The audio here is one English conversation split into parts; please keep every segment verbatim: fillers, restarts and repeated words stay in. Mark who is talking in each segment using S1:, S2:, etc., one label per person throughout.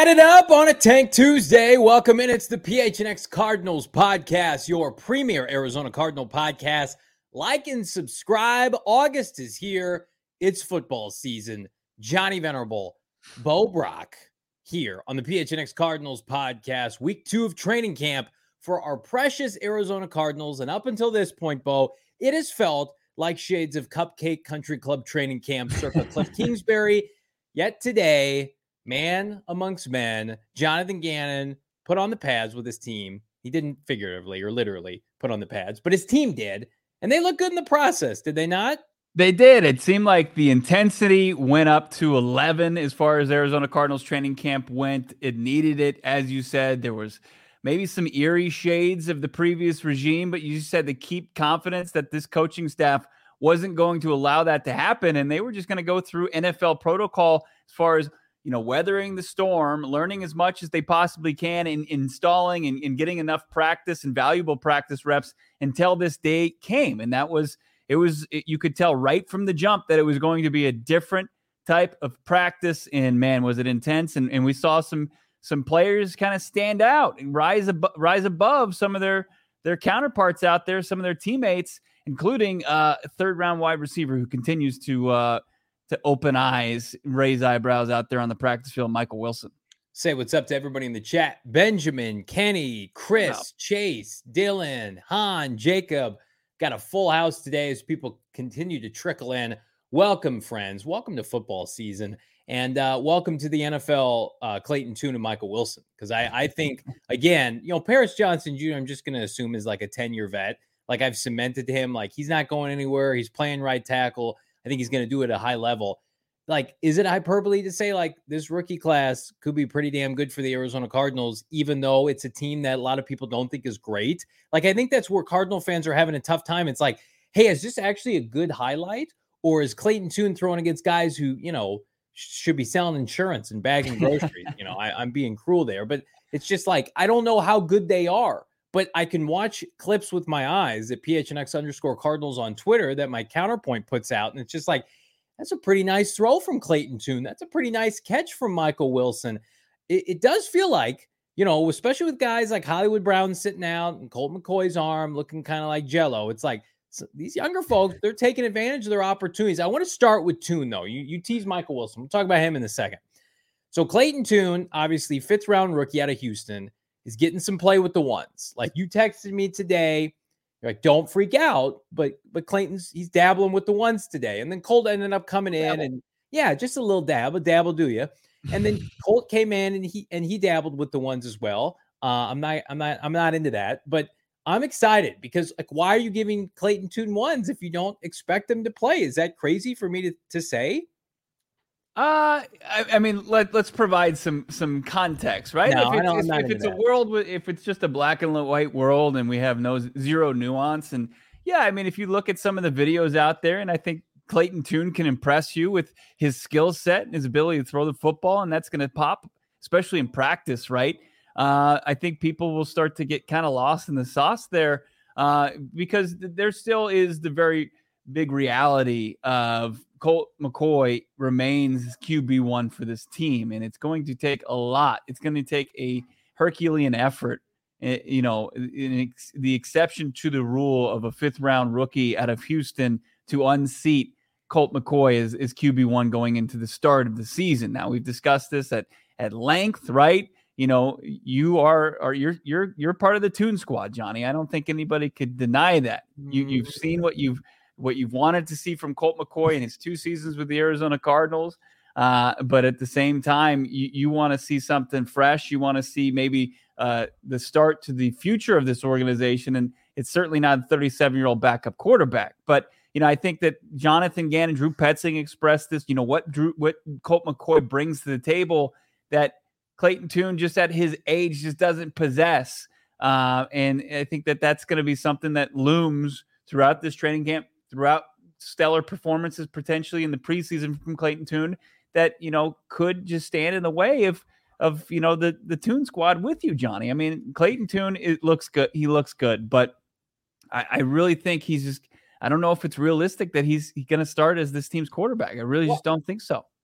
S1: it up on a Tank Tuesday. Welcome in. It's the P H N X Cardinals podcast, your premier Arizona Cardinal podcast. Like and subscribe. August is here. It's football season. Johnny Venerable, Bo Brock here on the P H N X Cardinals podcast. Week two of training camp for our precious Arizona Cardinals. And up until this point, Bo, it has felt like shades of Cupcake Country Club training camp circa Cliff Kingsbury. Yet today, man amongst men, Jonathan Gannon put on the pads with his team. He didn't figuratively or literally put on the pads, but his team did. And they look good in the process, did they not?
S2: They did. It seemed like the intensity went up to eleven as far as Arizona Cardinals training camp went. It needed it. As you said, there was maybe some eerie shades of the previous regime, but you just had to keep confidence that this coaching staff wasn't going to allow that to happen. And they were just going to go through N F L protocol as far as, you know, weathering the storm, learning as much as they possibly can, in installing and, and getting enough practice and valuable practice reps until this day came. And that was, it was, it, you could tell right from the jump that it was going to be a different type of practice. And man, was it intense. And, and we saw some, some players kind of stand out and rise above, rise above some of their, their counterparts out there, some of their teammates, including uh, a third round wide receiver who continues to, uh, to open eyes, raise eyebrows out there on the practice field, Michael Wilson.
S1: Say what's up to everybody in the chat. Benjamin, Kenny, Chris,
S2: Wow.
S1: Chase, Dylan, Han, Jacob. Got a full house today as people continue to trickle in. Welcome, friends. Welcome to football season. And uh, welcome to the N F L, uh, Clayton Tune and Michael Wilson. Because I, I think, again, you know, Paris Johnson Junior, I'm just going to assume is like a ten-year vet. Like I've cemented him. Like he's not going anywhere. He's playing right tackle. I think he's going to do it at a high level. Like, is it hyperbole to say like this rookie class could be pretty damn good for the Arizona Cardinals, even though it's a team that a lot of people don't think is great? Like, I think that's where Cardinal fans are having a tough time. It's like, hey, is this actually a good highlight? Or is Clayton Tune throwing against guys who, you know, should be selling insurance and bagging groceries? you know, I, I'm being cruel there, but it's just like, I don't know how good they are. But I can watch clips with my eyes at P H N X underscore Cardinals on Twitter that my counterpoint puts out. And it's just like, that's a pretty nice throw from Clayton Tune. That's a pretty nice catch from Michael Wilson. It, it does feel like, you know, especially with guys like Hollywood Brown sitting out and Colt McCoy's arm looking kind of like jello. It's like so these younger folks, they're taking advantage of their opportunities. I want to start with Tune, though. You, you tease Michael Wilson. We'll talk about him in a second. So Clayton Tune, obviously fifth round rookie out of Houston, is getting some play with the ones. Like you texted me today, you're like, don't freak out, but but Clayton's, he's dabbling with the ones today. And then Colt ended up coming in dabble. and yeah, just a little dab, a dabble do you. And then Colt came in and he and he dabbled with the ones as well. Uh, I'm not, I'm not, I'm not into that, but I'm excited because like, why are you giving Clayton Tune ones if you don't expect him to play? Is that crazy for me to, to say?
S2: Uh, I, I mean, let, let's provide some, some context, right?
S1: No,
S2: if it's,
S1: I don't,
S2: if, if it's a world with, if it's just a black and white world and we have no zero nuance. And yeah, I mean, if you look at some of the videos out there, and I think Clayton Tune can impress you with his skill set and his ability to throw the football, and that's going to pop, especially in practice, right? Uh, I think people will start to get kind of lost in the sauce there uh, because there still is the very big reality of Colt McCoy remains Q B one for this team, and it's going to take a lot. It's going to take a Herculean effort, you know, in ex- the exception to the rule of a fifth round rookie out of Houston to unseat Colt McCoy as, as Q B one going into the start of the season. Now we've discussed this at, at length, right? You know, you are, are you're, you're, you're part of the Tune squad, Johnny. I don't think anybody could deny that. You, you've seen what you've, what you've wanted to see from Colt McCoy in his two seasons with the Arizona Cardinals. Uh, but at the same time, you, you want to see something fresh. You want to see maybe uh, the start to the future of this organization. And it's certainly not a thirty-seven-year-old backup quarterback. But, you know, I think that Jonathan Gannon, Drew Petzing expressed this, you know, what Drew, what Colt McCoy brings to the table that Clayton Tune just at his age just doesn't possess. Uh, and I think that that's going to be something that looms throughout this training camp, throughout stellar performances potentially in the preseason from Clayton Tune that, you know, could just stand in the way of, of, you know, the, the Tune squad with you, Johnny. I mean, Clayton Tune, it looks good. He looks good, but I, I really think he's just, I don't know if it's realistic that he's, he's going to start as this team's quarterback. I really well, just don't think so.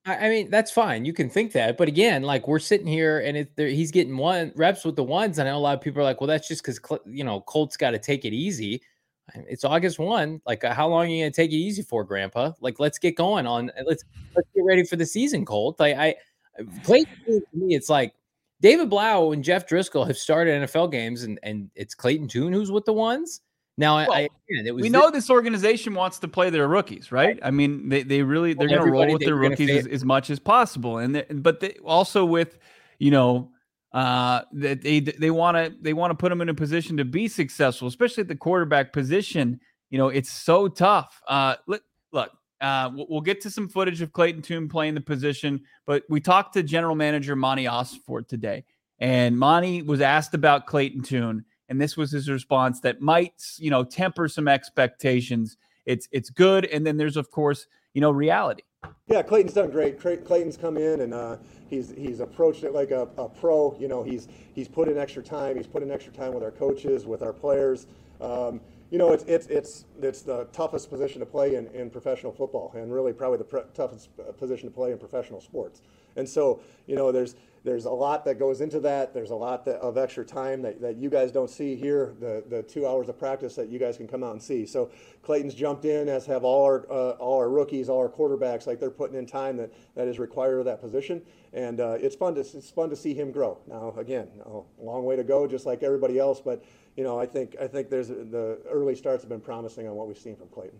S1: I, I mean, that's fine. You can think that, but again, like we're sitting here and it, there, he's getting one reps with the ones. And I know a lot of people are like, well, that's just because you know Colt's got to take it easy. It's August first. Like, uh, how long are you going to take it easy for, Grandpa? Like, let's get going on. Let's let's get ready for the season, Colt. Like, I Clayton Tune, to me, it's like David Blau and Jeff Driscoll have started N F L games, and and it's Clayton Tune who's with the ones. Now, well, I, again, it was
S2: we know this, this organization wants to play their rookies, right? right. I mean, they they really they're well, going to roll with their rookies as, as much as possible, and but they, also with you know. Uh, that they they want to they want to put them in a position to be successful, especially at the quarterback position. You know, it's so tough. Uh, look, look, uh, we'll get to some footage of Clayton Tune playing the position, but we talked to General Manager Monty Ossenfort today, and Monty was asked about Clayton Tune, and this was his response that might, you know, temper some expectations. It's it's good, and then there's of course, you know, reality.
S3: Yeah, Clayton's done great. Clayton's come in and uh, he's he's approached it like a, a pro. You know, he's he's put in extra time. He's put in extra time with our coaches, with our players. Um, you know, it's it's it's it's the toughest position to play in, in professional football, and really probably the pre- toughest position to play in professional sports. And so, you know, there's there's a lot that goes into that. There's a lot that, of extra time that, that you guys don't see here, the the two hours of practice that you guys can come out and see. So Clayton's jumped in, as have all our uh, all our rookies, all our quarterbacks. Like, they're putting in time that, that is required of that position, and uh, it's fun to it's fun to see him grow. Now, again, a long way to go, just like everybody else, but you know, I think I think there's the early starts have been promising on what we've seen from Clayton.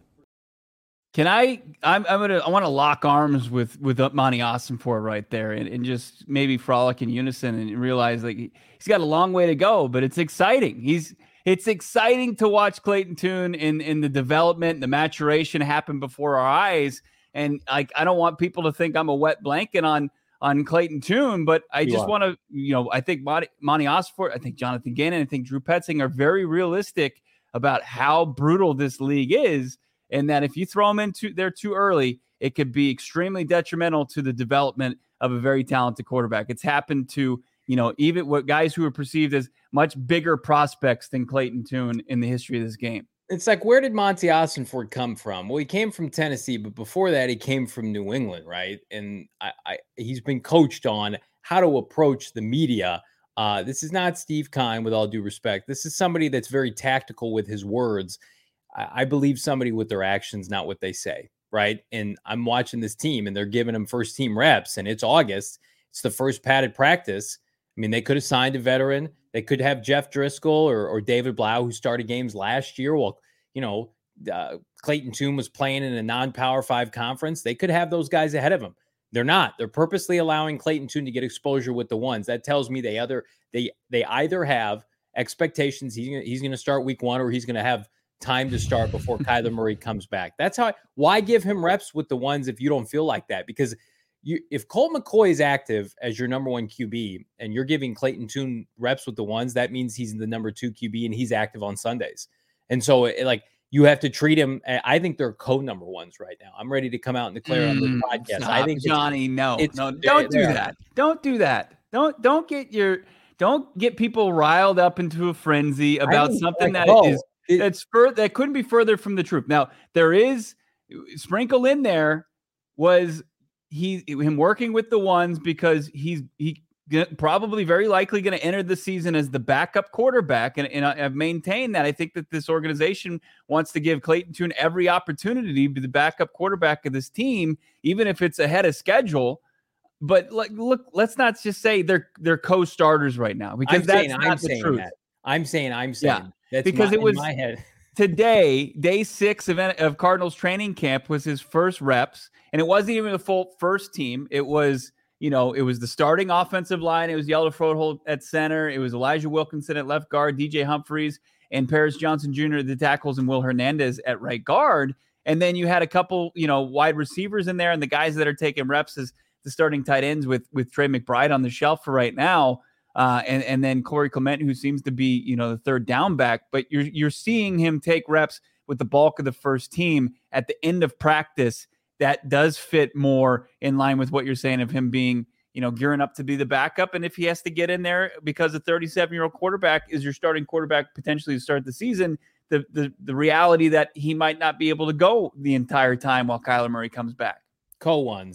S2: Can I? I'm. I'm gonna. I want to lock arms with with Monty Ossenfort right there, and, and just maybe frolic in unison and realize like he's got a long way to go, but it's exciting. He's. It's exciting to watch Clayton Tune in in the development, the maturation happen before our eyes, and like I don't want people to think I'm a wet blanket on on Clayton Tune, but I you just want to, you know, I think Monty, Monty Ossenfort, I think Jonathan Gannon, I think Drew Petzing are very realistic about how brutal this league is. And that if you throw them into there too early, it could be extremely detrimental to the development of a very talented quarterback. It's happened to, you know, even what guys who are perceived as much bigger prospects than Clayton Tune in the history of this game.
S1: It's like, where did Monty Ossenfort come from? Well, he came from Tennessee, but before that, he came from New England, right? And I, I he's been coached on how to approach the media. Uh, this is not Steve Keim, with all due respect. This is somebody that's very tactical with his words. I believe somebody with their actions, not what they say, right? And I'm watching this team, and they're giving them first team reps, and it's August. It's the first padded practice. I mean, they could have signed a veteran. They could have Jeff Driscoll or, or David Blau, who started games last year. Well, you know, uh, Clayton Tune was playing in a non-Power Five conference. They could have those guys ahead of him. They're not. They're purposely allowing Clayton Tune to get exposure with the ones. That tells me they other they they either have expectations he's gonna, he's going to start week one, or he's going to have time to start before Kyler Murray comes back. That's how I, why give him reps with the ones if you don't feel like that? Because you, if Colt McCoy is active as your number one Q B and you're giving Clayton Tune reps with the ones, that means he's the number two Q B and he's active on Sundays. And so it, like you have to treat him. I think they're co-number ones right now. I'm ready to come out and declare mm, on the podcast.
S2: Stop,
S1: I think
S2: Johnny,
S1: it's,
S2: no,
S1: it's,
S2: no, don't do that. Don't do that. Don't, don't get your, don't get people riled up into a frenzy about something that oh. is, It, That's fur- that couldn't be further from the truth. Now, there is sprinkle in there was he him working with the ones because he's he probably very likely going to enter the season as the backup quarterback, and, and I've maintained that. I think that this organization wants to give Clayton Tune every opportunity to be the backup quarterback of this team, even if it's ahead of schedule. But like, look, let's not just say they're they're co-starters right now, because
S1: I'm
S2: that's
S1: saying,
S2: not
S1: I'm
S2: the
S1: saying
S2: truth.
S1: That. I'm saying I'm saying.
S2: Yeah.
S1: That's
S2: because
S1: my,
S2: it was
S1: in my head.
S2: Today, day six of, of Cardinals training camp was his first reps, and it wasn't even the full first team. It was, you know, it was the starting offensive line. It was Yellow Froholt at center. It was Elijah Wilkinson at left guard, D J Humphries and Paris Johnson Junior at the tackles, and Will Hernandez at right guard. And then you had a couple, you know, wide receivers in there, and the guys that are taking reps as the starting tight ends with with Trey McBride on the shelf for right now. Uh, and, and then Corey Clement, who seems to be, you know, the third down back, but you're you're seeing him take reps with the bulk of the first team at the end of practice. That does fit more in line with what you're saying of him being, you know, gearing up to be the backup. And if he has to get in there because a thirty-seven-year-old quarterback is your starting quarterback potentially to start the season, the the the reality that he might not be able to go the entire time while Kyler Murray comes back.
S1: Co-ones.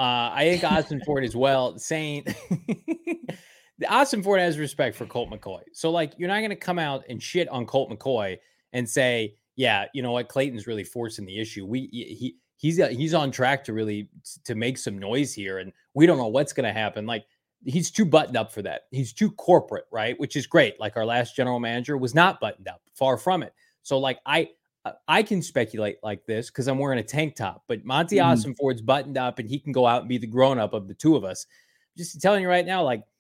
S1: Uh, I think Austin Ford as well, saying Austin Ford has respect for Colt McCoy. So, like, you're not going to come out and shit on Colt McCoy and say, yeah, you know what, Clayton's really forcing the issue. We he he's he's on track to really to make some noise here, and we don't know what's going to happen. Like, he's too buttoned up for that. He's too corporate, right? Which is great. Like, our last general manager was not buttoned up, far from it. So, like, I I can speculate like this because I'm wearing a tank top, but Monty mm. Austin Ford's buttoned up and he can go out and be the grown up of the two of us. Just telling you right now, like,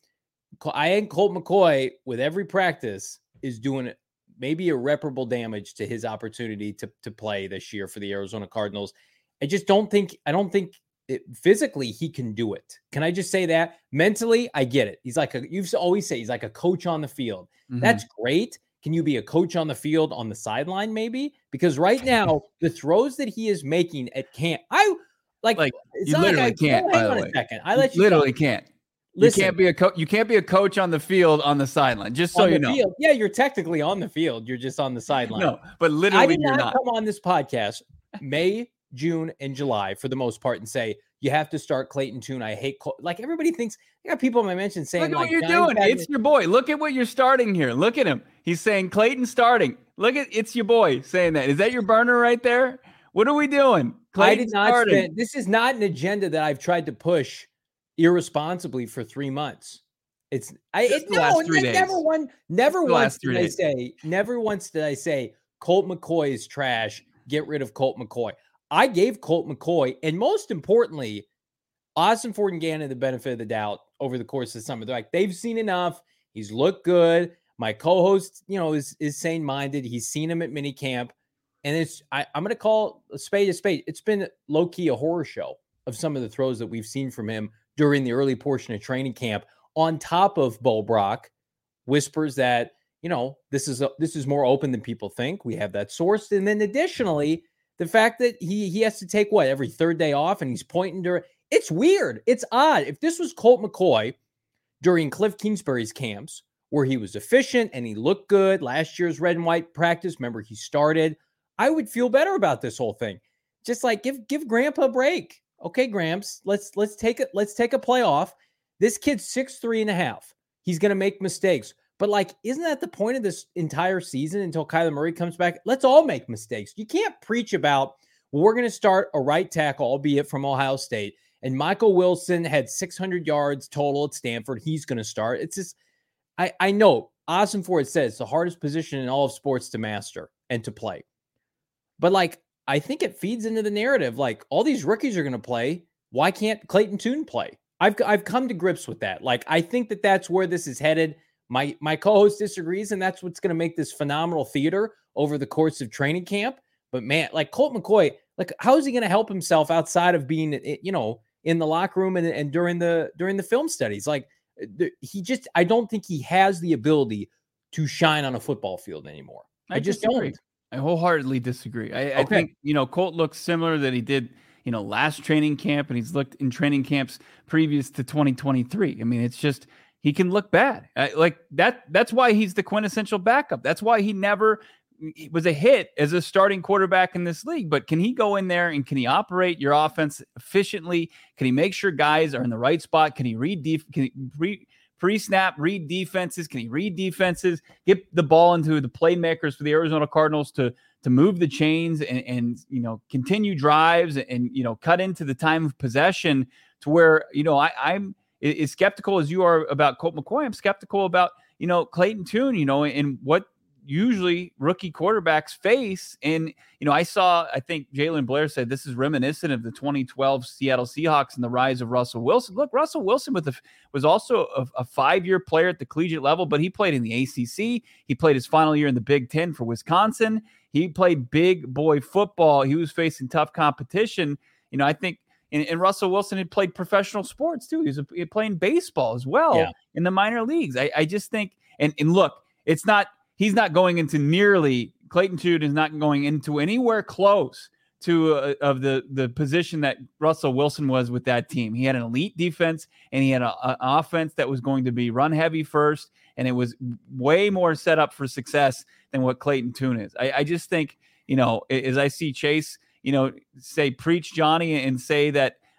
S1: I think Colt McCoy with every practice is doing maybe irreparable damage to his opportunity to, to play this year for the Arizona Cardinals. I just don't think, I don't think it, physically he can do it. Can I just say that? Mentally, I get it. He's like a, you've always say he's like a coach on the field. Mm-hmm. That's great. Can you be a coach on the field on the sideline maybe? Because right now, the throws that he is making at camp, I like,
S2: like you literally like I, can't, by the way.
S1: A second. I let you
S2: literally
S1: go.
S2: can't.
S1: Listen,
S2: you can't be a coach. You can't be a coach on the field on the sideline. Just so you know.
S1: Field. Yeah, you're technically on the field. You're just on the sideline.
S2: No, but literally,
S1: I did
S2: you're
S1: not
S2: not.
S1: come on this podcast May, June, and July for the most part and say you have to start Clayton Tune. I hate Col-. like everybody thinks. I got people in my mention saying,
S2: "Look at
S1: like,
S2: what you're doing.
S1: Badman.
S2: It's your boy. Look at what you're starting here. Look at him. He's saying Clayton starting. Look at it's your boy saying that. Is that your burner right there? What are we doing?
S1: Clayton I did not starting. Spend. This is not an agenda that I've tried to push irresponsibly for three months. It's I it, no, last three days. never one never once did days. I say never once did I say Colt McCoy is trash. Get rid of Colt McCoy. I gave Colt McCoy and most importantly, Austin Ford and Gannon the benefit of the doubt over the course of the summer. They're like they've seen enough. He's looked good. My co-host, you know, is is sane minded. He's seen him at minicamp, and it's I, I'm going to call a spade a spade. It's been low key a horror show of some of the throws that we've seen from him during the early portion of training camp. On top of Bo Brock, whispers that, you know, this is a, this is more open than people think. We have that sourced. And then additionally, the fact that he he has to take what every third day off and he's pointing to it's weird. It's odd. If this was Colt McCoy during Cliff Kingsbury's camps where he was efficient and he looked good, last year's red and white practice, remember he started, I would feel better about this whole thing. Just like give give Grandpa a break. Okay, Gramps, let's let's take it. Let's take a playoff. This kid's six three and a half. He's going to make mistakes. But, like, isn't that the point of this entire season until Kyler Murray comes back? Let's all make mistakes. You can't preach about, well, we're going to start a right tackle, albeit from Ohio State, and Michael Wilson had six hundred yards total at Stanford. He's going to start. It's just, I, I know Austin Ford says it's the hardest position in all of sports to master and to play. But, like, I think it feeds into the narrative. Like, all these rookies are going to play. Why can't Clayton Tune play? I've I've come to grips with that. Like, I think that that's where this is headed. My my co-host disagrees, and that's what's going to make this phenomenal theater over the course of training camp. But man, like Colt McCoy, like how is he going to help himself outside of being, you know, in the locker room and, and during the during the film studies? Like he just, I don't think he has the ability to shine on a football field anymore. I, I just
S2: disagree.
S1: don't.
S2: I wholeheartedly disagree. I,
S1: okay.
S2: I think, you know, Colt looks similar that he did, you know, last training camp, and he's looked in training camps previous to twenty twenty-three. I mean, it's just, he can look bad. Uh, like that. That's why he's the quintessential backup. That's why he never he was a hit as a starting quarterback in this league. But can he go in there and can he operate your offense efficiently? Can he make sure guys are in the right spot? Can he read def- can he re- pre-snap, read defenses? Can he read defenses? Get the ball into the playmakers for the Arizona Cardinals to to move the chains and, and you know, continue drives and, and, you know, cut into the time of possession to where, you know, I, I'm as skeptical as you are about Colt McCoy. I'm skeptical about, you know, Clayton Tune, you know, and what usually rookie quarterbacks face. And, you know, I saw, I think Jalen Blair said this is reminiscent of the twenty twelve Seattle Seahawks and the rise of Russell Wilson. Look, Russell Wilson with the, was also a, a five-year player at the collegiate level, but he played in the A C C. He played his final year in the Big Ten for Wisconsin. He played big boy football. He was facing tough competition. You know, I think, and, and Russell Wilson had played professional sports too. He was, a, he was playing baseball as well yeah. in the minor leagues. I, I just think, and, and look, it's not, he's not going into nearly, Clayton Tune is not going into anywhere close to uh, of the, the position that Russell Wilson was with that team. He had an elite defense and he had an offense that was going to be run heavy first. And it was way more set up for success than what Clayton Tune is. I, I just think, you know, as I see Chase, you know, say, preach Johnny and say that,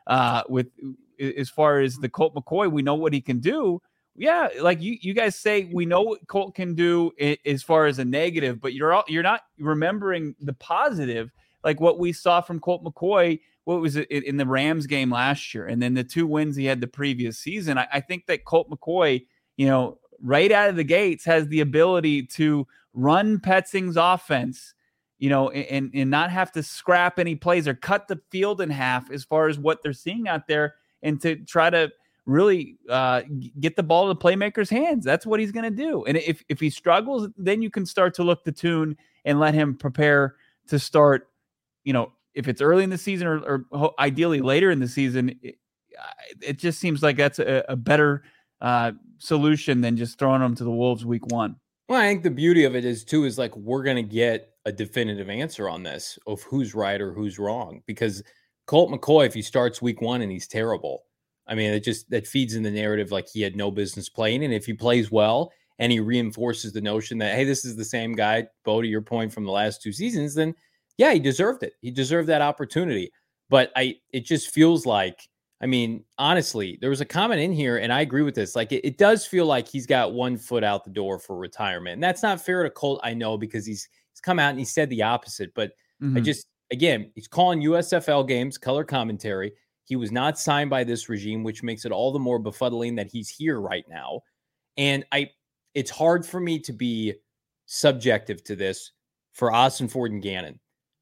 S2: uh, with as far as the Colt McCoy. We know what he can do. Yeah, like you, you guys say, we know what Colt can do as far as a negative, but you're all, you're not remembering the positive, like what we saw from Colt McCoy. What was it in the Rams game last year, and then the two wins he had the previous season. I, I think that Colt McCoy, you know, right out of the gates, has the ability to run Petzing's offense, you know, and, and not have to scrap any plays or cut the field in half as far as what they're seeing out there, and to try to really uh, get the ball to the playmaker's hands. That's what he's going to do. And if, if he struggles, then you can start to look the tune and let him prepare to start, you know, if it's early in the season or, or ideally later in the season. It, it just seems like that's a, a better uh, solution than just throwing them to the Wolves week one.
S1: Well, I think the beauty of it is too, is like, we're going to get a definitive answer on this of who's right or who's wrong, because Colt McCoy, if he starts week one and he's terrible, I mean, it just, that feeds in the narrative like he had no business playing. And if he plays well and he reinforces the notion that, hey, this is the same guy, Bo, to your point, from the last two seasons, then yeah, he deserved it. He deserved that opportunity. But I, it just feels like, I mean, honestly, there was a comment in here, and I agree with this. Like, it, it does feel like he's got one foot out the door for retirement. And that's not fair to Colt, I know, because he's he's come out and he said the opposite. But mm-hmm. I just, again, he's calling U S F L games, color commentary. He was not signed by this regime, which makes it all the more befuddling that he's here right now. And I, it's hard for me to be subjective to this for Austin Ford and Gannon.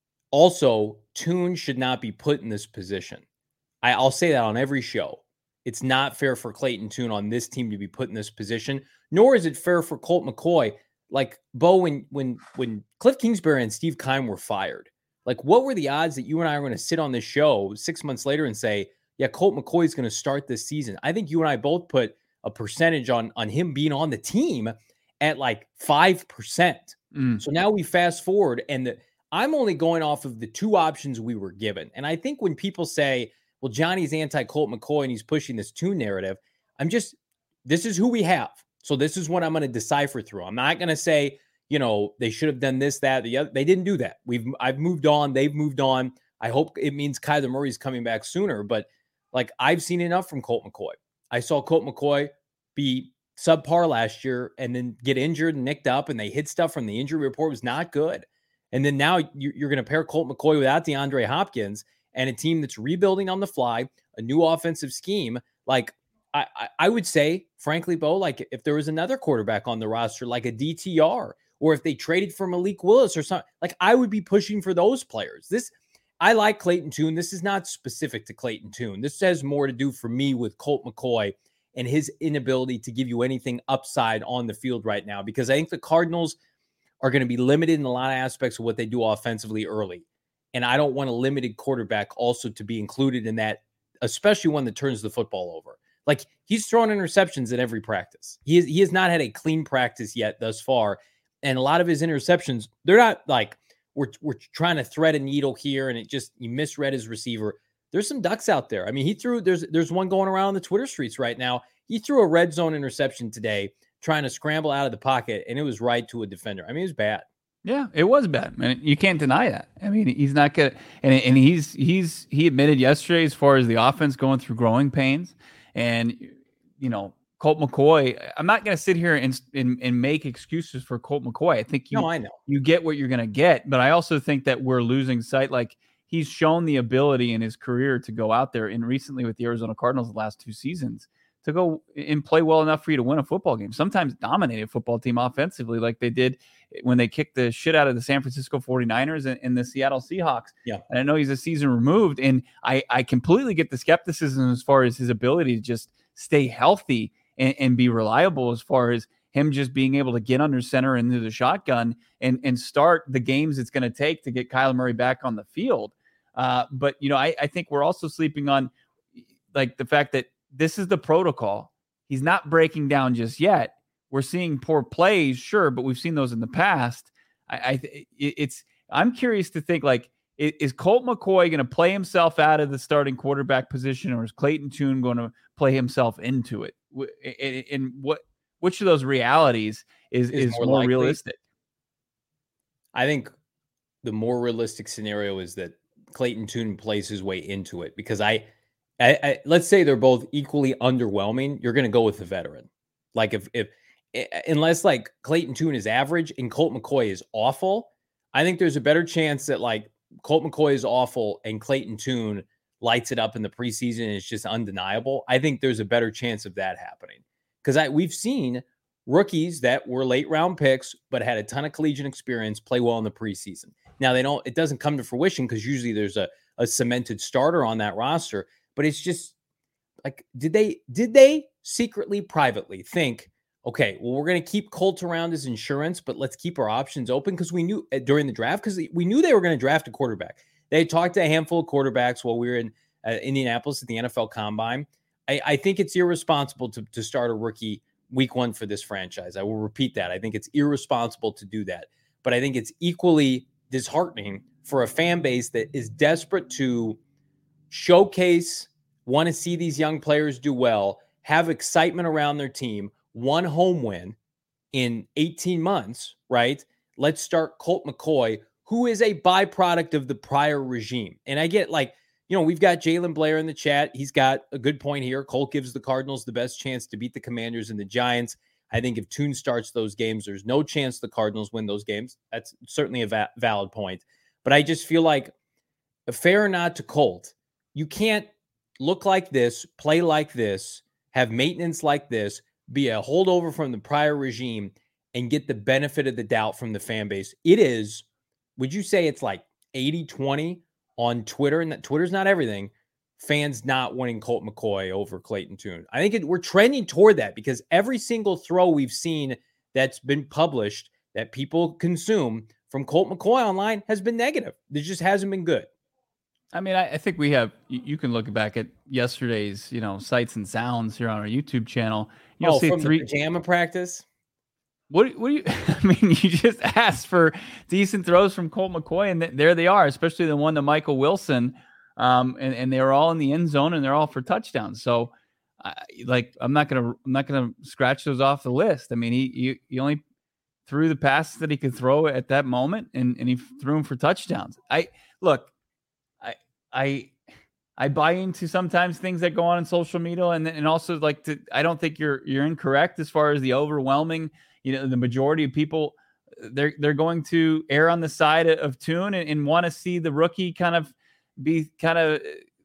S1: Also, Tune should not be put in this position. I, I'll say that on every show. It's not fair for Clayton Tune on this team to be put in this position, nor is it fair for Colt McCoy. Like, Bo, when when when Cliff Kingsbury and Steve Keim were fired, like, what were the odds that you and I are going to sit on this show six months later and say, yeah, Colt McCoy is going to start this season? I think you and I both put a percentage on, on him being on the team at like five percent. Mm. So now we fast forward, and the, I'm only going off of the two options we were given. And I think when people say, well, Johnny's anti-Colt McCoy and he's pushing this Tune narrative, I'm just, this is who we have. So this is what I'm going to decipher through. I'm not going to say, you know, they should have done this, that, the other. They didn't do that. We've, I've moved on. They've moved on. I hope it means Kyler Murray's coming back sooner. But like, I've seen enough from Colt McCoy. I saw Colt McCoy be subpar last year and then get injured and nicked up, and they hid stuff from the injury report. It was not good. And then now you're going to pair Colt McCoy without DeAndre Hopkins and a team that's rebuilding on the fly, a new offensive scheme. Like, I, I would say, frankly, Bo, like, if there was another quarterback on the roster, like a D T R, or if they traded for Malik Willis or something, like, I would be pushing for those players. This, I like Clayton Tune. This is not specific to Clayton Tune. This has more to do for me with Colt McCoy and his inability to give you anything upside on the field right now, because I think the Cardinals are going to be limited in a lot of aspects of what they do offensively early. And I don't want a limited quarterback also to be included in that, especially one that turns the football over. Like, he's throwing interceptions in every practice. He, is, he has not had a clean practice yet thus far. And a lot of his interceptions, they're not like, we're, we're trying to thread a needle here and it just, you misread his receiver. There's some ducks out there. I mean, he threw, there's, there's one going around on the Twitter streets right now. He threw a red zone interception today, trying to scramble out of the pocket, and it was right to a defender. I mean, it was bad.
S2: Yeah, it was bad. I mean, you can't deny that. I mean, he's not gonna, and and he's he's he admitted yesterday, as far as the offense going through growing pains, and you know, Colt McCoy. I'm not gonna sit here and and, and make excuses for Colt McCoy. I think you,
S1: no, I know
S2: you get what you're gonna get, but I also think that we're losing sight. Like, he's shown the ability in his career to go out there, and recently with the Arizona Cardinals, the last two seasons, to go and play well enough for you to win a football game. Sometimes dominate a football team offensively, like they did when they kicked the shit out of the San Francisco forty-niners and, and the Seattle Seahawks.
S1: Yeah.
S2: And I know he's a season removed, and I, I completely get the skepticism as far as his ability to just stay healthy and, and be reliable, as far as him just being able to get under center into the shotgun and, and start the games it's going to take to get Kyler Murray back on the field. Uh, but, you know, I, I think we're also sleeping on like the fact that this is the protocol. He's not breaking down just yet. We're seeing poor plays, sure, but we've seen those in the past. I, I it's. I'm curious to think, like, is Colt McCoy going to play himself out of the starting quarterback position, or is Clayton Tune going to play himself into it? And what which of those realities is is, is more, more realistic?
S1: I think the more realistic scenario is that Clayton Tune plays his way into it, because I. I, I, let's say they're both equally underwhelming, you're going to go with the veteran. Like if, if, unless like Clayton Tune is average and Colt McCoy is awful, I think there's a better chance that like Colt McCoy is awful and Clayton Tune lights it up in the preseason and it's just undeniable. I think there's a better chance of that happening because I we've seen rookies that were late round picks but had a ton of collegiate experience play well in the preseason. Now they don't. It doesn't come to fruition because usually there's a a cemented starter on that roster. But it's just like, did they did they secretly, privately think, okay, well, we're going to keep Colt around as insurance, but let's keep our options open because we knew uh, during the draft, because we knew they were going to draft a quarterback. They talked to a handful of quarterbacks while we were in uh, Indianapolis at the N F L Combine. I, I think it's irresponsible to, to start a rookie week one for this franchise. I will repeat that. I think it's irresponsible to do that. But I think it's equally disheartening for a fan base that is desperate to showcase, want to see these young players do well, have excitement around their team, one home win in eighteen months, right? Let's start Colt McCoy, who is a byproduct of the prior regime. And I get like, you know, we've got Jalen Blair in the chat. He's got a good point here. Colt gives the Cardinals the best chance to beat the Commanders and the Giants. I think if Tune starts those games, there's no chance the Cardinals win those games. That's certainly a va- valid point. But I just feel like, fair or not to Colt, you can't look like this, play like this, have maintenance like this, be a holdover from the prior regime, and get the benefit of the doubt from the fan base. It is, would you say it's like eighty twenty on Twitter? And that Twitter's not everything. Fans not wanting Colt McCoy over Clayton Tune. I think it, we're trending toward that because every single throw we've seen that's been published that people consume from Colt McCoy online has been negative. It just hasn't been good.
S2: I mean, I, I think we have, you, you can look back at yesterday's, you know, sights and sounds here on our YouTube channel. You'll
S1: oh,
S2: see
S1: from
S2: three
S1: the pajama practice.
S2: What, what do you, I mean, you just asked for decent throws from Colt McCoy and th- there they are, especially the one to Michael Wilson. Um, and, and they were all in the end zone and they're all for touchdowns. So uh, like, I'm not going to, I'm not going to scratch those off the list. I mean, he, he, he only threw the passes that he could throw at that moment and, and he threw them for touchdowns. I look, I, I, I buy into sometimes things that go on in social media and, and also like to, I don't think you're, you're incorrect as far as the overwhelming, you know, the majority of people they're, they're going to err on the side of, of Tune and, and want to see the rookie kind of be kind of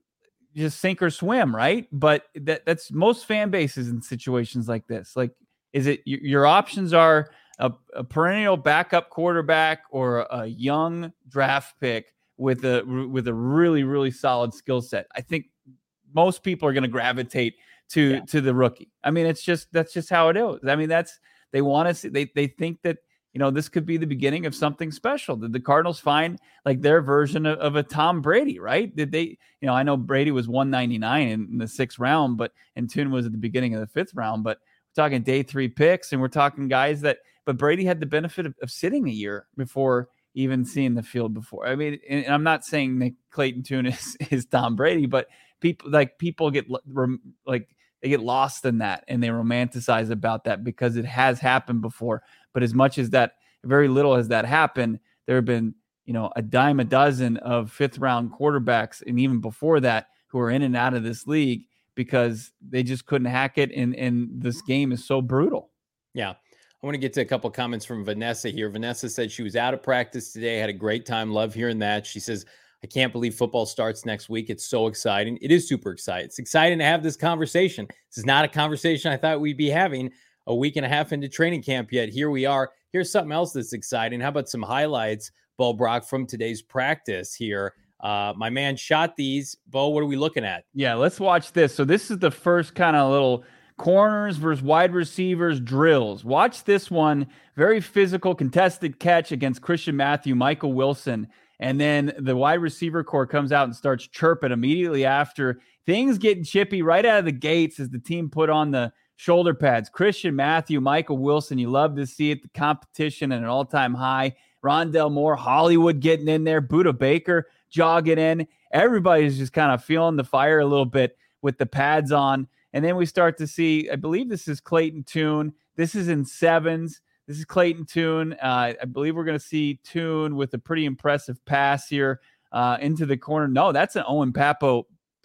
S2: just sink or swim. Right. But that that's most fan bases in situations like this. Like, is it your options are a, a perennial backup quarterback or a young draft pick with a with a really, really solid skill set? I think most people are going to gravitate to yeah. to the rookie. I mean, it's just that's just how it is. I mean, that's they want to see they they think that, you know, this could be the beginning of something special. Did the Cardinals find like their version of, of a Tom Brady, right? Did they, you know, I know Brady was one ninety-nine in, in the sixth round, but and Tune was at the beginning of the fifth round, but we're talking day three picks and we're talking guys that, but Brady had the benefit of, of sitting a year before even seeing the field before. I mean, and I'm not saying that Clayton Tune is, is Tom Brady, but people like people get like they get lost in that and they romanticize about that because it has happened before. But as much as that, very little as that happened, there have been, you know, a dime a dozen of fifth round quarterbacks. And even before that, who are in and out of this league because they just couldn't hack it. And, and this game is so brutal.
S1: Yeah. I want to get to a couple of comments from Vanessa here. Vanessa said she was out of practice today, had a great time. Love hearing that. She says, I can't believe football starts next week. It's so exciting. It is super exciting. It's exciting to have this conversation. This is not a conversation I thought we'd be having a week and a half into training camp yet. Here we are. Here's something else that's exciting. How about some highlights, Bo Brock, from today's practice here? Uh, my man shot these. Bo, what are we looking at?
S2: Yeah, let's watch this. So this is the first kind of little corners versus wide receivers drills. Watch this one. Very physical contested catch against Christian Matthew, Michael Wilson. And then the wide receiver core comes out and starts chirping immediately after. Things getting chippy right out of the gates as the team put on the shoulder pads. Christian Matthew, Michael Wilson, you love to see it. The competition at an all-time high. Rondell Moore, Hollywood getting in there. Budda Baker jogging in. Everybody's just kind of feeling the fire a little bit with the pads on. And then we start to see, I believe this is Clayton Tune. This is in sevens. This is Clayton Tune. Uh, I believe we're going to see Tune with a pretty impressive pass here uh, into the corner. No, that's an Owen Pappoe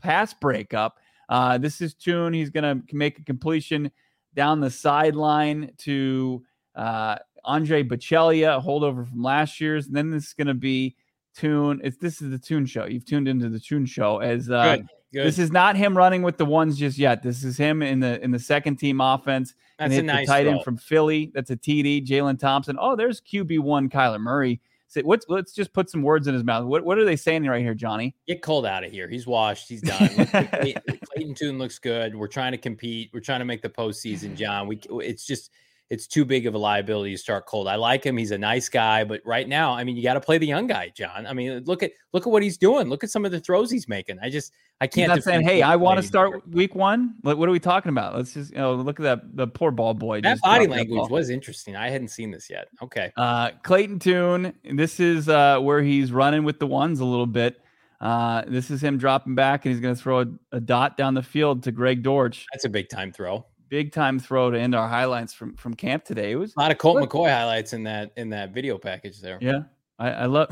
S2: pass breakup. Uh, this is Tune. He's going to make a completion down the sideline to uh, Andre Bocellia, a holdover from last year's. And then this is going to be Tune. It's this is the Tune Show. You've tuned into the Tune Show. As uh,
S1: Good. Good.
S2: This is not him running with the ones just yet. This is him in the in the second team offense.
S1: That's
S2: and
S1: a nice
S2: the tight
S1: throw.
S2: end from Philly. That's a T D. Jalen Thompson. Oh, there's Q B one Kyler Murray. So what's, let's just put some words in his mouth. What what are they saying right here, Johnny?
S1: Get Colt out of here. He's washed. He's done. Clayton, Clayton Tune looks good. We're trying to compete. We're trying to make the postseason, John. We it's just it's too big of a liability to start Colt. I like him. He's a nice guy, but right now, I mean, you got to play the young guy, John. I mean, look at look at what he's doing. Look at some of the throws he's making. I just I can't.
S2: He's not saying, "Hey, I want to start
S1: anymore.
S2: week one." What, what are we talking about? Let's just you know look at that the poor ball boy.
S1: That
S2: just
S1: body
S2: dropped that
S1: language
S2: ball.
S1: was interesting. I hadn't seen this yet. Okay.
S2: Uh, Clayton Tune. This is uh, where he's running with the ones a little bit. Uh, this is him dropping back, and he's going to throw a, a dot down the field to Greg Dortch.
S1: That's a big time throw.
S2: Big time throw to end our highlights from from camp today. It was
S1: A lot of Colt
S2: Look.
S1: McCoy highlights in that in that video package there.
S2: yeah. I, I love.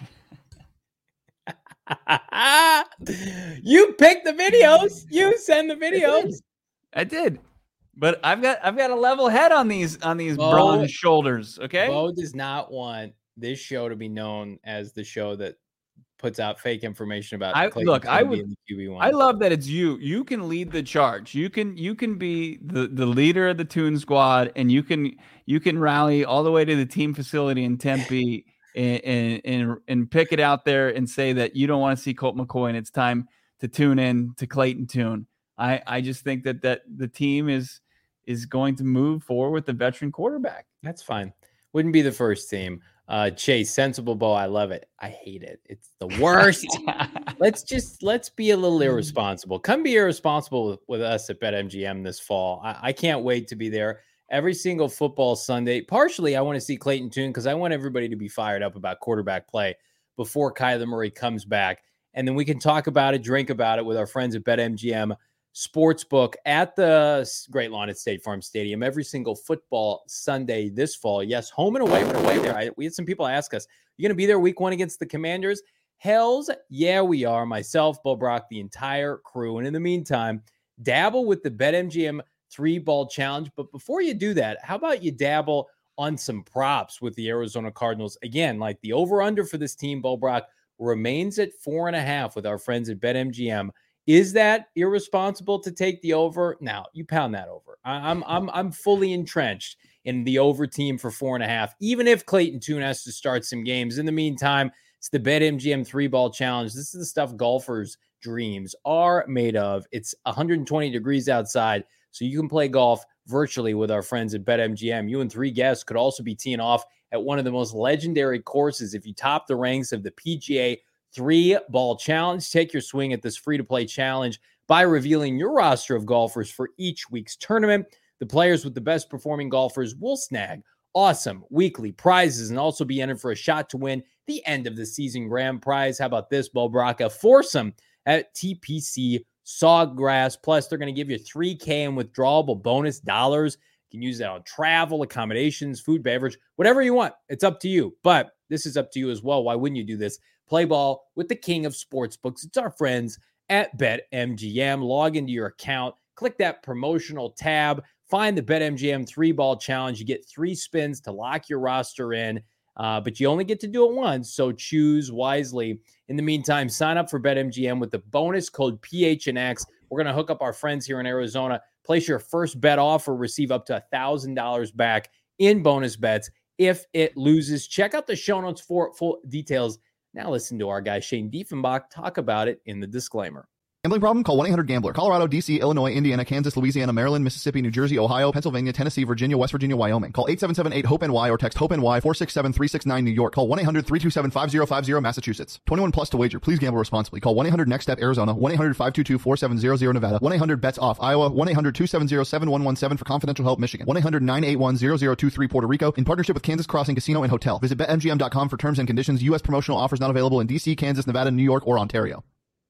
S1: You pick the videos. You send the videos.
S2: I did, but I've got I've got a level head on these on these
S1: Bo-
S2: bronze shoulders. Okay.
S1: Bo does not want this show to be known as the show that puts out fake information about.
S2: I-
S1: Clayton
S2: look, I
S1: Tune
S2: would-
S1: being the Q B one.
S2: I love that it's you. You can lead the charge. You can you can be the, the leader of the Toon Squad, and you can you can rally all the way to the team facility in Tempe and and and, and pick it out there and say that you don't want to see Colt McCoy and it's time to tune in to Clayton Tune. I, I just think that that the team is is going to move forward with the veteran quarterback.
S1: That's fine. Wouldn't be the first team. Uh, Chase, sensible Bo. I love it. I hate it. It's the worst. let's just let's be a little irresponsible. Come be irresponsible with, with us at BetMGM this fall. I, I can't wait to be there every single football Sunday. Partially, I want to see Clayton Tune because I want everybody to be fired up about quarterback play before Kyler Murray comes back, and then we can talk about it, drink about it with our friends at BetMGM Sportsbook at the Great Lawn at State Farm Stadium every single football Sunday this fall. Yes, home and away. We're away there. I, we had some people ask us, "You going to be there week one against the Commanders?" Hells yeah, we are. Myself, Bo Brock, the entire crew. And in the meantime, dabble with the BetMGM three ball challenge. But before you do that, how about you dabble on some props with the Arizona Cardinals? Again, like the over under for this team, Bo Brock, remains at four and a half with our friends at BetMGM. Is that irresponsible to take the over? Now you pound that over. I, I'm I'm I'm fully entrenched in the over team for four and a half. Even if Clayton Tune has to start some games. In the meantime, it's the BetMGM three ball challenge. This is the stuff golfers' dreams are made of. It's one hundred twenty degrees outside, so you can play golf virtually with our friends at BetMGM. You and three guests could also be teeing off at one of the most legendary courses if you top the ranks of the P G A Three Ball Challenge. Take your swing at this free-to-play challenge by revealing your roster of golfers for each week's tournament. The players with the best performing golfers will snag awesome weekly prizes and also be entered for a shot to win the end of the season grand prize. How about this, Bo Brock? A foursome at T P C Sawgrass. Plus, they're going to give you three K in withdrawable bonus dollars. You can use that on travel, accommodations, food, beverage, whatever you want. It's up to you. But this is up to you as well. Why wouldn't you do this? Play ball with the king of sportsbooks. It's our friends at BetMGM. Log into your account, click that promotional tab, find the BetMGM three ball challenge. You get three spins to lock your roster in, uh, but you only get to do it once, so choose wisely. In the meantime, sign up for BetMGM with the bonus code P H N X. We're going to hook up our friends here in Arizona. Place your first bet offer, receive up to one thousand dollars back in bonus bets if it loses. Check out the show notes for full details. Now listen to our guy Shane Diefenbach talk about it in the disclaimer.
S4: Gambling problem? Call one eight hundred gambler. Colorado, D C, Illinois, Indiana, Kansas, Louisiana, Maryland, Mississippi, New Jersey, Ohio, Pennsylvania, Tennessee, Virginia, West Virginia, Wyoming. Call eight seven seven eight hope N Y or text HOPE-NY four six seven three six nine New York. Call one eight hundred three two seven five zero five zero Massachusetts. twenty-one plus to wager. Please gamble responsibly. Call one eight hundred next step Arizona. one eight hundred five two two four seven zero zero Nevada. one eight hundred bets off Iowa. one eight hundred two seven zero seven one one seven for confidential help Michigan. one eight hundred nine eight one zero zero two three Puerto Rico. In partnership with Kansas Crossing Casino and Hotel. Visit bet M G M dot com for terms and conditions. U S promotional offers not available in D C, Kansas, Nevada, New York, or Ontario.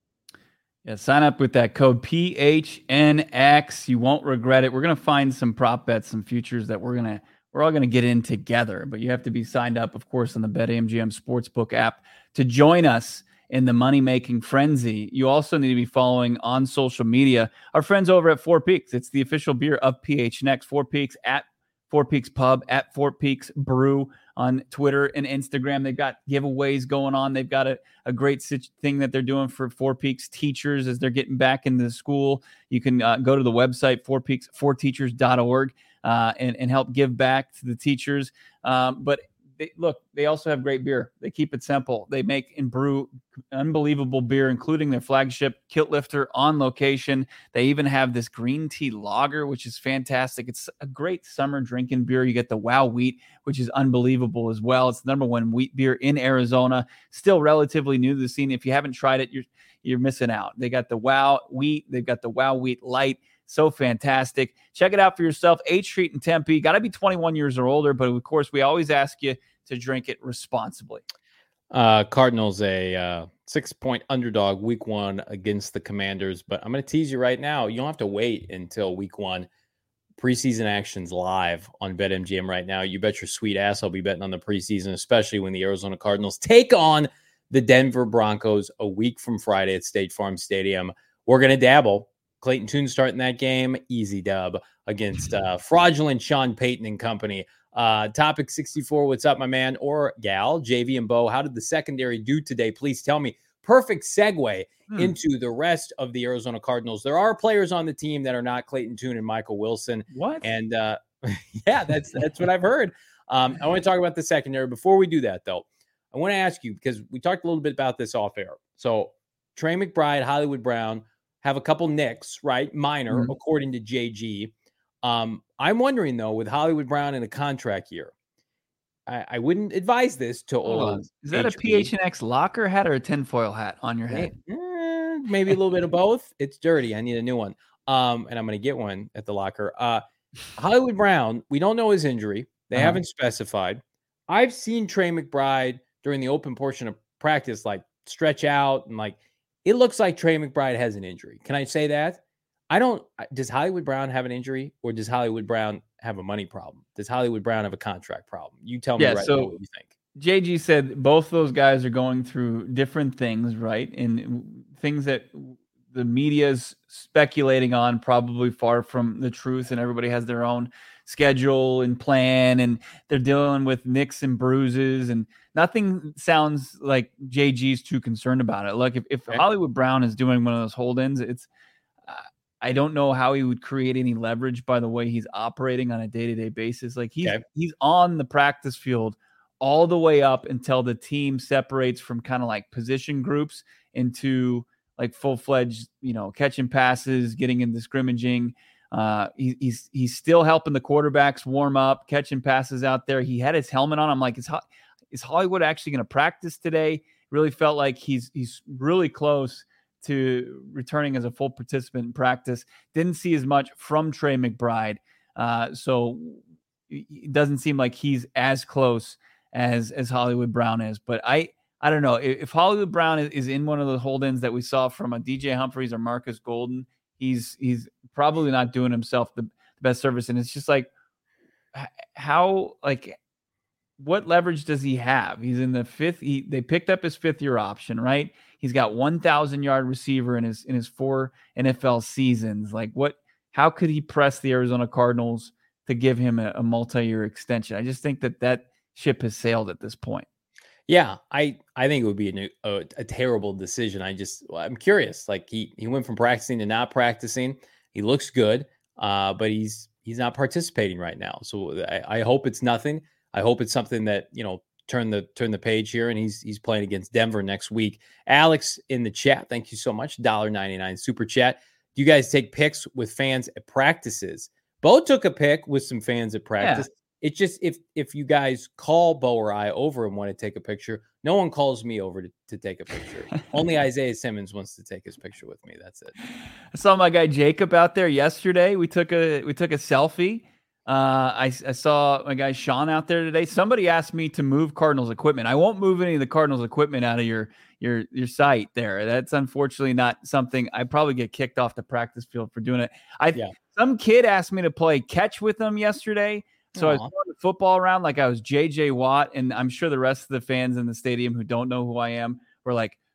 S2: Yeah, sign up with that code P H N X. You won't regret it. We're going to find some prop bets, some futures that we're going to, we're all going to get in together, but you have to be signed up, of course, on the BetMGM Sportsbook app to join us in the money-making frenzy, you also need to be following on social media our friends over at Four Peaks. It's the official beer of P H N X. Four Peaks at Four Peaks Pub, at Four Peaks Brew on Twitter and Instagram. They've got giveaways going on. They've got a, a great thing that they're doing for Four Peaks teachers as they're getting back into the school. You can uh, go to the website, four peaks for teachers dot org, uh, and, and help give back to the teachers. Um, but They, look, they also have great beer. They keep it simple. They make and brew unbelievable beer, including their flagship Kilt Lifter on location. They even have this green tea lager, which is fantastic. It's a great summer drinking beer. You get the Wow Wheat, which is unbelievable as well. It's the number one wheat beer in Arizona. Still relatively new to the scene. If you haven't tried it, you're you're missing out. They got the Wow Wheat. They've got the Wow Wheat Light. So fantastic. Check it out for yourself. eighth Street in Tempe. Got to be twenty-one years or older, but of course, we always ask you to drink it responsibly.
S1: Uh, Cardinals a uh, six-point underdog week one against the Commanders, but I'm going to tease you right now. You don't have to wait until week one. Preseason action's live on BetMGM right now. You bet your sweet ass I'll be betting on the preseason, especially when the Arizona Cardinals take on the Denver Broncos a week from Friday at State Farm Stadium. We're going to dabble. Clayton Tune starting that game, easy dub against uh, fraudulent Sean Payton and company. Uh, topic sixty-four, what's up, my man or gal? J V and Bo, how did the secondary do today? Please tell me. Perfect segue hmm. into the rest of the Arizona Cardinals. There are players on the team that are not Clayton Tune and Michael Wilson.
S2: What?
S1: And uh, yeah, that's that's what I've heard. Um, I want to talk about the secondary. Before we do that, though, I want to ask you, because we talked a little bit about this off air. So Trey McBride, Hollywood Brown have a couple nicks, right? Minor, mm-hmm. according to J G. Um, I'm wondering, though, with Hollywood Brown in a contract year, I, I wouldn't advise this to
S2: Hold
S1: old.
S2: on. Is that H P. a P H N X locker hat or a tinfoil hat on your head?
S1: Eh, maybe a little bit of both. It's dirty. I need a new one. Um, and I'm going to get one at the locker. Uh, Hollywood Brown, we don't know his injury. They uh-huh. haven't specified. I've seen Trey McBride during the open portion of practice, like stretch out and like, it looks like Trey McBride has an injury. Can I say that? I don't. Does Hollywood Brown have an injury, or does Hollywood Brown have a money problem? Does Hollywood Brown have a contract problem? You tell me
S2: yeah,
S1: right
S2: so
S1: now what you think.
S2: J G said both those guys are going through different things, right? And things that the media's speculating on, probably far from the truth, and everybody has their own schedule and plan, and they're dealing with nicks and bruises, and nothing sounds like J G's too concerned about it. Look, if, if okay. Hollywood Brown is doing one of those hold-ins, it's uh, I don't know how he would create any leverage by the way he's operating on a day-to-day basis. Like he's okay. he's on the practice field all the way up until the team separates from kind of like position groups into like full-fledged, you know, catching passes, getting into scrimmaging. Uh, he, he's he's still helping the quarterbacks warm up, catching passes out there. He had his helmet on. I'm like, is is Hollywood actually going to practice today? Really felt like he's he's really close to returning as a full participant in practice. Didn't see as much from Trey McBride, uh, so it doesn't seem like he's as close as as Hollywood Brown is. But I I don't know if, if Hollywood Brown is, is in one of the hold-ins that we saw from a D J Humphries or Marcus Golden, he's he's probably not doing himself the, the best service. And it's just like, how, like, what leverage does he have? He's in the fifth. He, they picked up his fifth year option, right? He's got one thousand yard receiver in his, in his four N F L seasons. Like what, how could he press the Arizona Cardinals to give him a, a multi-year extension? I just think that that ship has sailed at this point.
S1: Yeah, I, I think it would be a, new, a, a terrible decision. I just, well, I'm curious. Like he, he went from practicing to not practicing. He looks good, uh, but he's, he's not participating right now. So I, I hope it's nothing. I hope it's something that, you know, turn the, turn the page here, and he's, he's playing against Denver next week. Alex in the chat. Thank you so much. one dollar and ninety-nine cents super chat. Do you guys take pics with fans at practices? Bo took a pic with some fans at practice. Yeah. It's just if if you guys call Bo or I over and want to take a picture, no one calls me over to, to take a picture. Only Isaiah Simmons wants to take his picture with me. That's it.
S2: I saw my guy Jacob out there yesterday. We took a we took a selfie. Uh, I, I saw my guy Sean out there today. Somebody asked me to move Cardinals equipment. I won't move any of the Cardinals equipment out of your your your site there. That's unfortunately not something. I probably get kicked off the practice field for doing it. I yeah. Some kid asked me to play catch with them yesterday. So Aww. I was throwing the football around like I was J J Watt, and I'm sure the rest of the fans in the stadium who don't know who I am were like,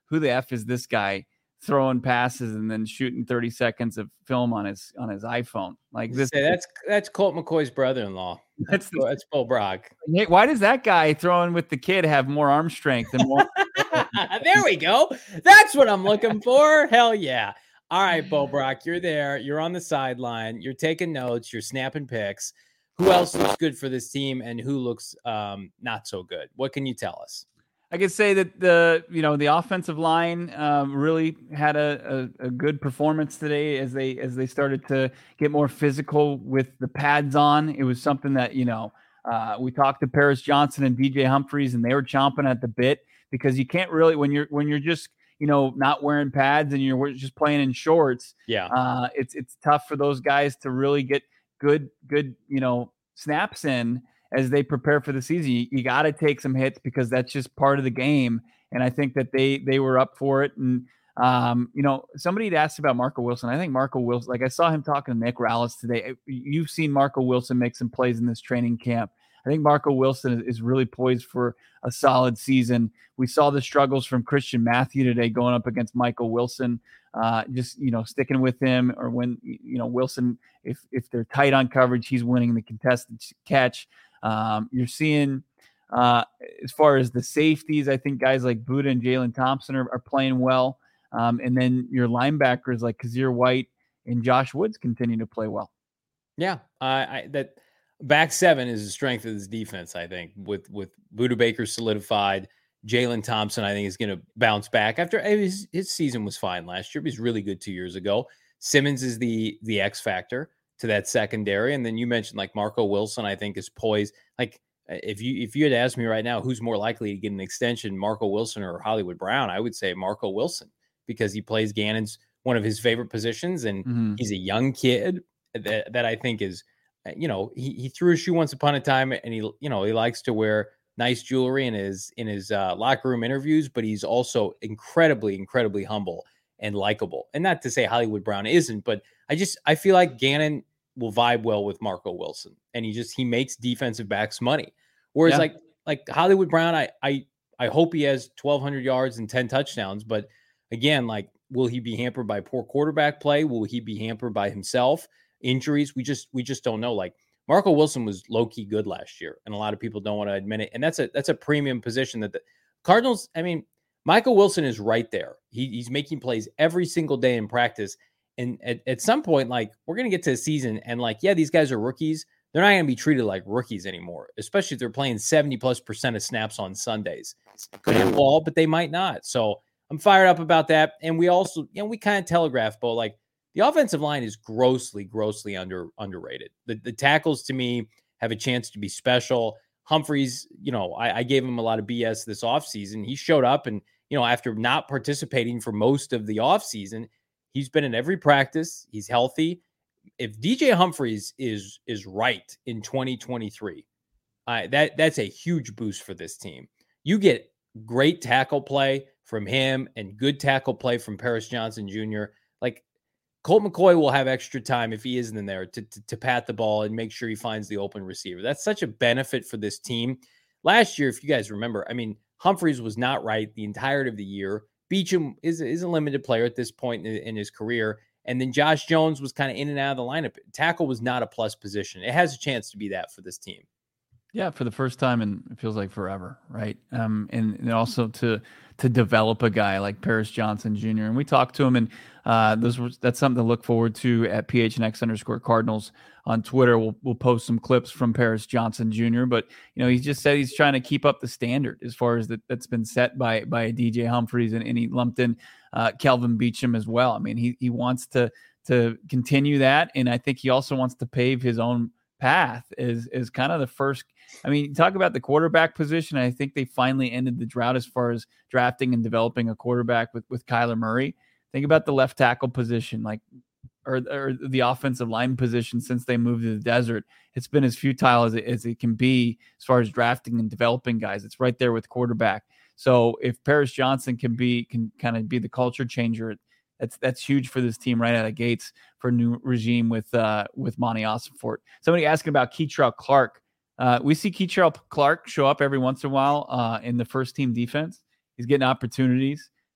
S2: who the F is this guy throwing passes and then shooting thirty seconds of film on his on his iPhone? Like this.
S1: Say, that's that's Colt McCoy's brother-in-law. That's that's, that's Bo Brock.
S2: Why does that guy throwing with the kid have more arm strength and more?
S1: There we go. That's what I'm looking for. Hell yeah. All right, Bo Brock, you're there. You're on the sideline. You're taking notes. You're snapping pics. Who else looks good for this team and who looks um, not so good? What can you tell us?
S2: I could say that the you know the offensive line um, really had a, a, a good performance today as they as they started to get more physical with the pads on. It was something that you know uh, we talked to Paris Johnson and D J Humphries, and they were chomping at the bit because you can't really when you're when you're just you know not wearing pads and you're just playing in shorts.
S1: Yeah,
S2: uh, it's it's tough for those guys to really get good good you know snaps in. As they prepare for the season, you, you got to take some hits because that's just part of the game. And I think that they they were up for it. And, um, you know, somebody had asked about Marco Wilson. I think Marco Wilson, like I saw him talking to Nick Rallis today. You've seen Marco Wilson make some plays in this training camp. I think Marco Wilson is, is really poised for a solid season. We saw the struggles from Christian Matthew today going up against Michael Wilson, uh, just, you know, sticking with him or when, you know, Wilson, if if they're tight on coverage, he's winning the contested catch. Um, you're seeing, uh, as far as the safeties, I think guys like Buda and Jalen Thompson are, are playing well. Um, and then your linebackers like Kazir White and Josh Woods continue to play well.
S1: Yeah, uh, I, that back seven is the strength of this defense, I think, with, with Buda Baker solidified. Jalen Thompson, I think, is going to bounce back after his, his season was fine last year. He was really good two years ago. Simmons is the the X factor to that secondary. And then you mentioned like Marco Wilson, I think is poised. Like if you, if you had asked me right now, who's more likely to get an extension, Marco Wilson or Hollywood Brown, I would say Marco Wilson because he plays Gannon's one of his favorite positions. And mm-hmm. he's a young kid that, that I think is, you know, he, he threw a shoe once upon a time and he, you know, he likes to wear nice jewelry in his, in his uh, locker room interviews, but he's also incredibly, incredibly humble and likable. And not to say Hollywood Brown isn't, but I just, I feel like Gannon will vibe well with Marco Wilson and he just, he makes defensive backs money. Whereas yeah. like, like Hollywood Brown, I, I, I hope he has twelve hundred yards and ten touchdowns, but again, like, will he be hampered by poor quarterback play? Will he be hampered by himself? Injuries? We just, we just don't know. Like Marco Wilson was low key good last year and a lot of people don't want to admit it. And that's a, that's a premium position that the Cardinals, I mean, Michael Wilson is right there. He, he's making plays every single day in practice. And at, at some point, like, we're going to get to the season and, like, yeah, these guys are rookies. They're not going to be treated like rookies anymore, especially if they're playing seventy plus percent of snaps on Sundays. Could have all, but they might not. So I'm fired up about that. And we also, you know, we kind of telegraph, Bo, like, the offensive line is grossly, grossly under underrated. The, the tackles, to me, have a chance to be special. Humphries, you know, I, I gave him a lot of B S this offseason. He showed up and, you know, after not participating for most of the offseason, he's been in every practice. He's healthy. If D J Humphries is is right in twenty twenty-three, uh, that that's a huge boost for this team. You get great tackle play from him and good tackle play from Paris Johnson Junior Like Colt McCoy will have extra time if he isn't in there to, to, to pat the ball and make sure he finds the open receiver. That's such a benefit for this team. Last year, if you guys remember, I mean, Humphries was not right the entirety of the year. Beachum is, is a limited player at this point in, in his career. And then Josh Jones was kind of in and out of the lineup. Tackle was not a plus position. It has a chance to be that for this team.
S2: Yeah, for the first time in it feels like forever, right? Um, and, and also to to develop a guy like Paris Johnson Junior And we talked to him, and uh, those were, that's something to look forward to at P H N X underscore Cardinals on Twitter. We'll we'll post some clips from Paris Johnson Junior But you know, he just said he's trying to keep up the standard as far as that that's been set by by D J Humphries, and, and he lumped in uh, Kelvin Beachum as well. I mean, he he wants to to continue that, and I think he also wants to pave his own path is is kind of the first. I mean, talk about the quarterback position. I think they finally ended the drought as far as drafting and developing a quarterback with, with Kyler Murray. Think about the left tackle position, like, or, or the offensive line position since they moved to the desert. It's been as futile as it, as it can be as far as drafting and developing guys. It's right there with quarterback. So if Paris Johnson can be, can kind of be the culture changer, That's that's huge for this team right out of the gates for a new regime with uh, with Monty Ossenfort. Somebody asking about Kei'Trel Clark. Uh, we see Kei'Trel Clark show up every once in a while uh, in the first team defense. He's getting opportunities.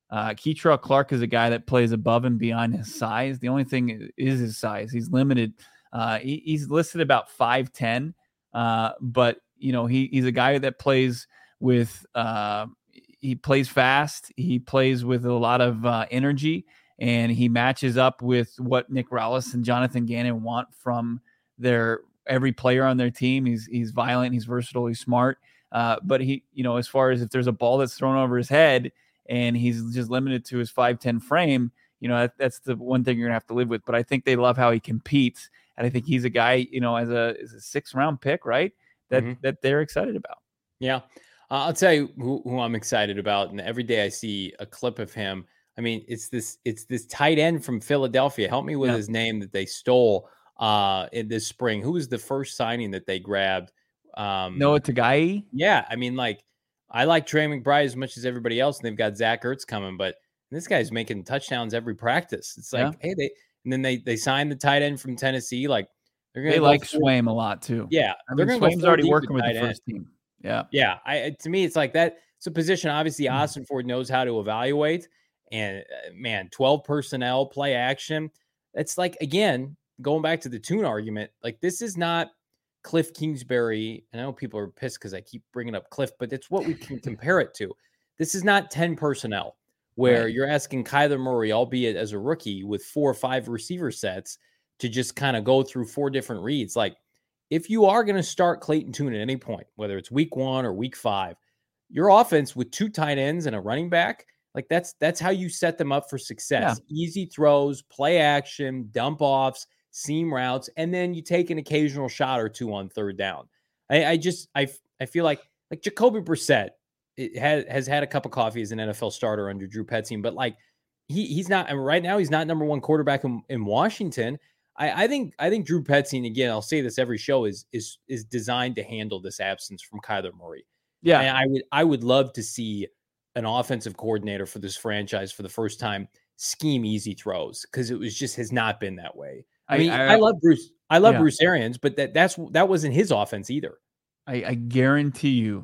S2: Uh, Keitrell Clark is a guy that plays above and beyond his size. The only thing is his size. He's limited. Uh, he, he's listed about five ten, uh, but you know he he's a guy that plays with uh, he plays fast. He plays with a lot of uh, energy, and he matches up with what Nick Rallis and Jonathan Gannon want from their every player on their team. He's he's violent. He's versatile. He's smart. Uh, but he you know as far as if there's a ball that's thrown over his head, and he's just limited to his five ten frame, you know, that, that's the one thing you're going to have to live with. But I think they love how he competes. And I think he's a guy, you know, as a, as a six round pick, right, that mm-hmm. that they're excited about.
S1: Yeah. Uh, I'll tell you who, who I'm excited about. And every day I see a clip of him. I mean, it's this it's this tight end from Philadelphia. Help me with yeah. his name that they stole uh, in this spring. Who was the first signing that they grabbed? Um,
S2: Noah Tagai?
S1: Yeah. I mean, like, I like Trey McBride as much as everybody else, and they've got Zach Ertz coming, but this guy's making touchdowns every practice. It's like, yeah. hey, they and then they they signed the tight end from Tennessee. Like
S2: they're gonna they like Swaim a lot too.
S1: Yeah,
S2: I mean, Swaim's already working with the first
S1: end.
S2: team. Yeah,
S1: yeah. I to me, it's like that. It's a position obviously mm-hmm. Austin Ford knows how to evaluate, and uh, man, twelve personnel, play action. It's like again going back to the Tune argument. Like this is not Cliff Kingsbury, and I know people are pissed because I keep bringing up Cliff, but it's what we can compare it to. This is not ten personnel where right. you're asking Kyler Murray, albeit as a rookie, with four or five receiver sets to just kind of go through four different reads. Like if you are going to start Clayton Tune at any point, whether it's week one or week five, your offense with two tight ends and a running back, like that's that's how you set them up for success. Yeah. Easy throws, play action, dump offs, seam routes, and then you take an occasional shot or two on third down. I, I just I I feel like like Jacoby Brissett it has has had a cup of coffee as an N F L starter under Drew Petzing, but like he he's not and right now he's not number one quarterback in, in Washington. I, I think I think Drew Petzing, again, I'll say this every show, is is is designed to handle this absence from Kyler Murray.
S2: Yeah,
S1: and I would I would love to see an offensive coordinator for this franchise for the first time scheme easy throws because it was just has not been that way. I mean, I, I, I love Bruce. I love yeah. Bruce Arians, but that that's that wasn't his offense either.
S2: I, I guarantee you,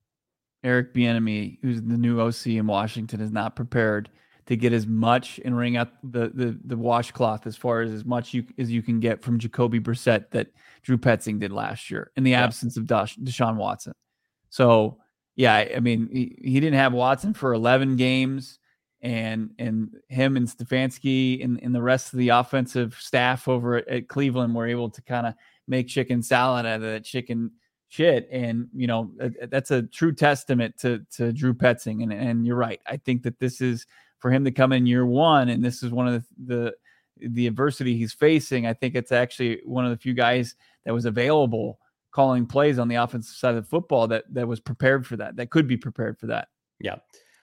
S2: Eric Bieniemy, who's the new O C in Washington, is not prepared to get as much and wring out the the the washcloth as far as as much you as you can get from Jacoby Brissett that Drew Petzing did last year in the yeah. absence of Dash, Deshaun Watson. So yeah, I mean, he, he didn't have Watson for eleven games. And and him and Stefanski and, and the rest of the offensive staff over at, at Cleveland were able to kind of make chicken salad out of that chicken shit. And, you know, that's a true testament to to Drew Petzing. And, and you're right. I think that this is for him to come in year one, and this is one of the, the, the adversity he's facing. I think it's actually one of the few guys that was available calling plays on the offensive side of the football that that was prepared for that, that could be prepared for that.
S1: Yeah.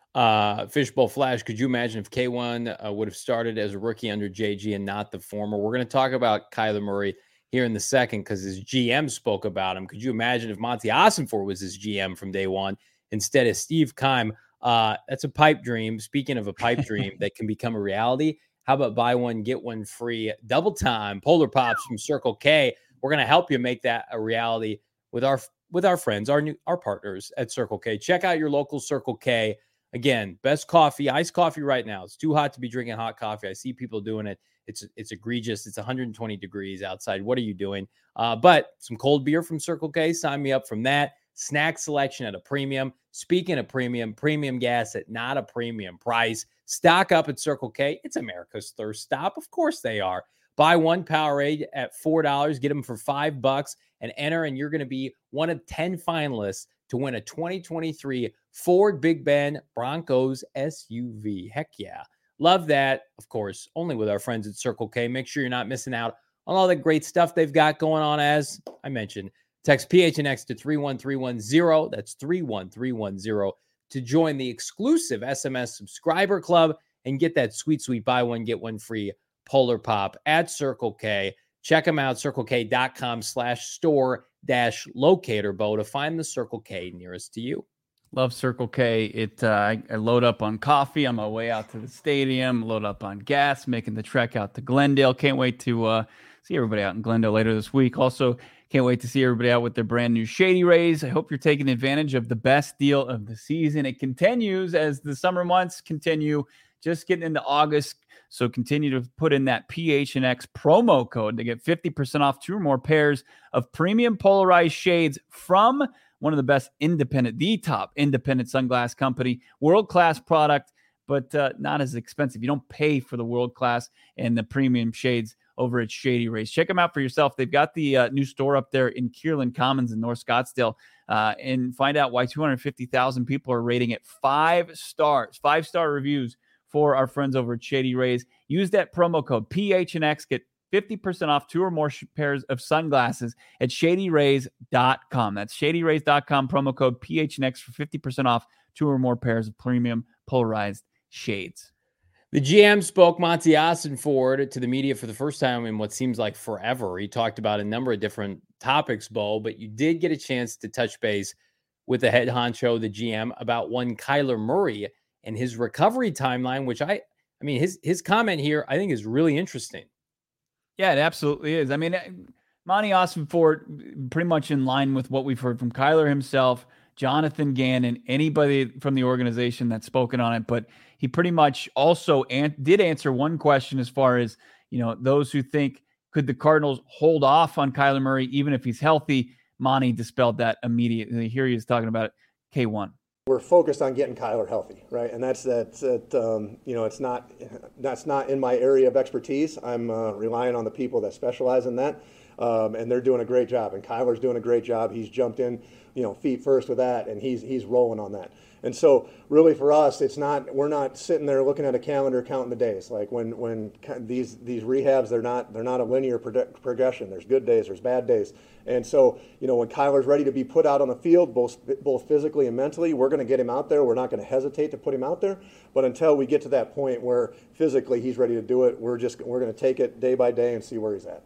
S1: Uh, Fishbowl Flash, could you imagine if K one uh, would have started as a rookie under J G and not the former? We're going to talk about Kyler Murray here in the second because his G M spoke about him. Could you imagine if Monty Ossenfort was his G M from day one instead of Steve Keim? Uh, that's a pipe dream. Speaking of a pipe dream that can become a reality, how about buy one, get one free double time Polar Pops from Circle K? We're going to help you make that a reality with our with our friends, our new our partners at Circle K. Check out your local Circle K. Again, best coffee, iced coffee right now. It's too hot to be drinking hot coffee. I see people doing it. It's it's egregious. It's one hundred twenty degrees outside. What are you doing? Uh, but some cold beer from Circle K. Sign me up from that. Snack selection at a premium. Speaking of premium, premium gas at not a premium price. Stock up at Circle K. It's America's thirst stop. Of course they are. Buy one Powerade at four dollars. Get them for five bucks and enter, and you're going to be one of ten finalists to win a twenty twenty-three Ford Big Bend Broncos S U V. Heck yeah. Love that. Of course, only with our friends at Circle K. Make sure you're not missing out on all the great stuff they've got going on. As I mentioned, text P H N X to three one three one zero. That's three one three one zero to join the exclusive S M S subscriber club and get that sweet, sweet buy one, get one free Polar Pop at Circle K. Check them out, circlek.com slash store dash locator bow to find the Circle K nearest to you.
S2: Love Circle K. It uh, I, I load up on coffee on my way out to the stadium, load up on gas, making the trek out to Glendale. Can't wait to uh, see everybody out in Glendale later this week. Also, Can't wait to see everybody out with their brand new Shady Rays. I hope you're taking advantage of the best deal of the season. It continues as the summer months continue, just getting into August. So continue to put in that P H N X promo code to get fifty percent off two or more pairs of premium polarized shades from one of the best independent, the top independent sunglass company, world-class product, but uh, not as expensive. You don't pay for the world-class and the premium shades over at Shady Rays. Check them out for yourself. They've got the uh, new store up there in Kierland Commons in North Scottsdale, uh, and find out why two hundred fifty thousand people are rating it five stars, five-star reviews for our friends over at Shady Rays. Use that promo code P H N X. Get fifty percent off two or more sh- pairs of sunglasses at shady rays dot com. That's shady rays dot com, promo code P H N X for fifty percent off two or more pairs of premium polarized shades.
S1: The G M spoke Monty Ossenford to the media for the first time in what seems like forever. He talked about a number of different topics, Bo, but you did get a chance to touch base with the head honcho, the G M, about one Kyler Murray and his recovery timeline, which I, I mean, his his comment here, I think is really interesting.
S2: Yeah, it absolutely is. I mean, Monty Ossenford, pretty much in line with what we've heard from Kyler himself, Jonathan Gannon, anybody from the organization that's spoken on it. But he pretty much also an- did answer one question as far as, you know, those who think, could the Cardinals hold off on Kyler Murray even if he's healthy? Monty dispelled that immediately. Here he is talking about it. K one.
S3: We're focused on getting Kyler healthy, right? And that's that's that. Um, you know, it's not that's not in my area of expertise. I'm uh, relying on the people that specialize in that, um, and they're doing a great job. And Kyler's doing a great job. He's jumped in, you know, feet first with that, and he's he's rolling on that. And so, really, for us, it's not we're not sitting there looking at a calendar counting the days. Like when when these these rehabs, they're not they're not a linear pro- progression. There's good days, there's bad days. And so, you know, when Kyler's ready to be put out on the field, both both physically and mentally, we're going to get him out there. We're not going to hesitate to put him out there. But until we get to that point where physically he's ready to do it, we're just we're going to take it day by day and see where he's at.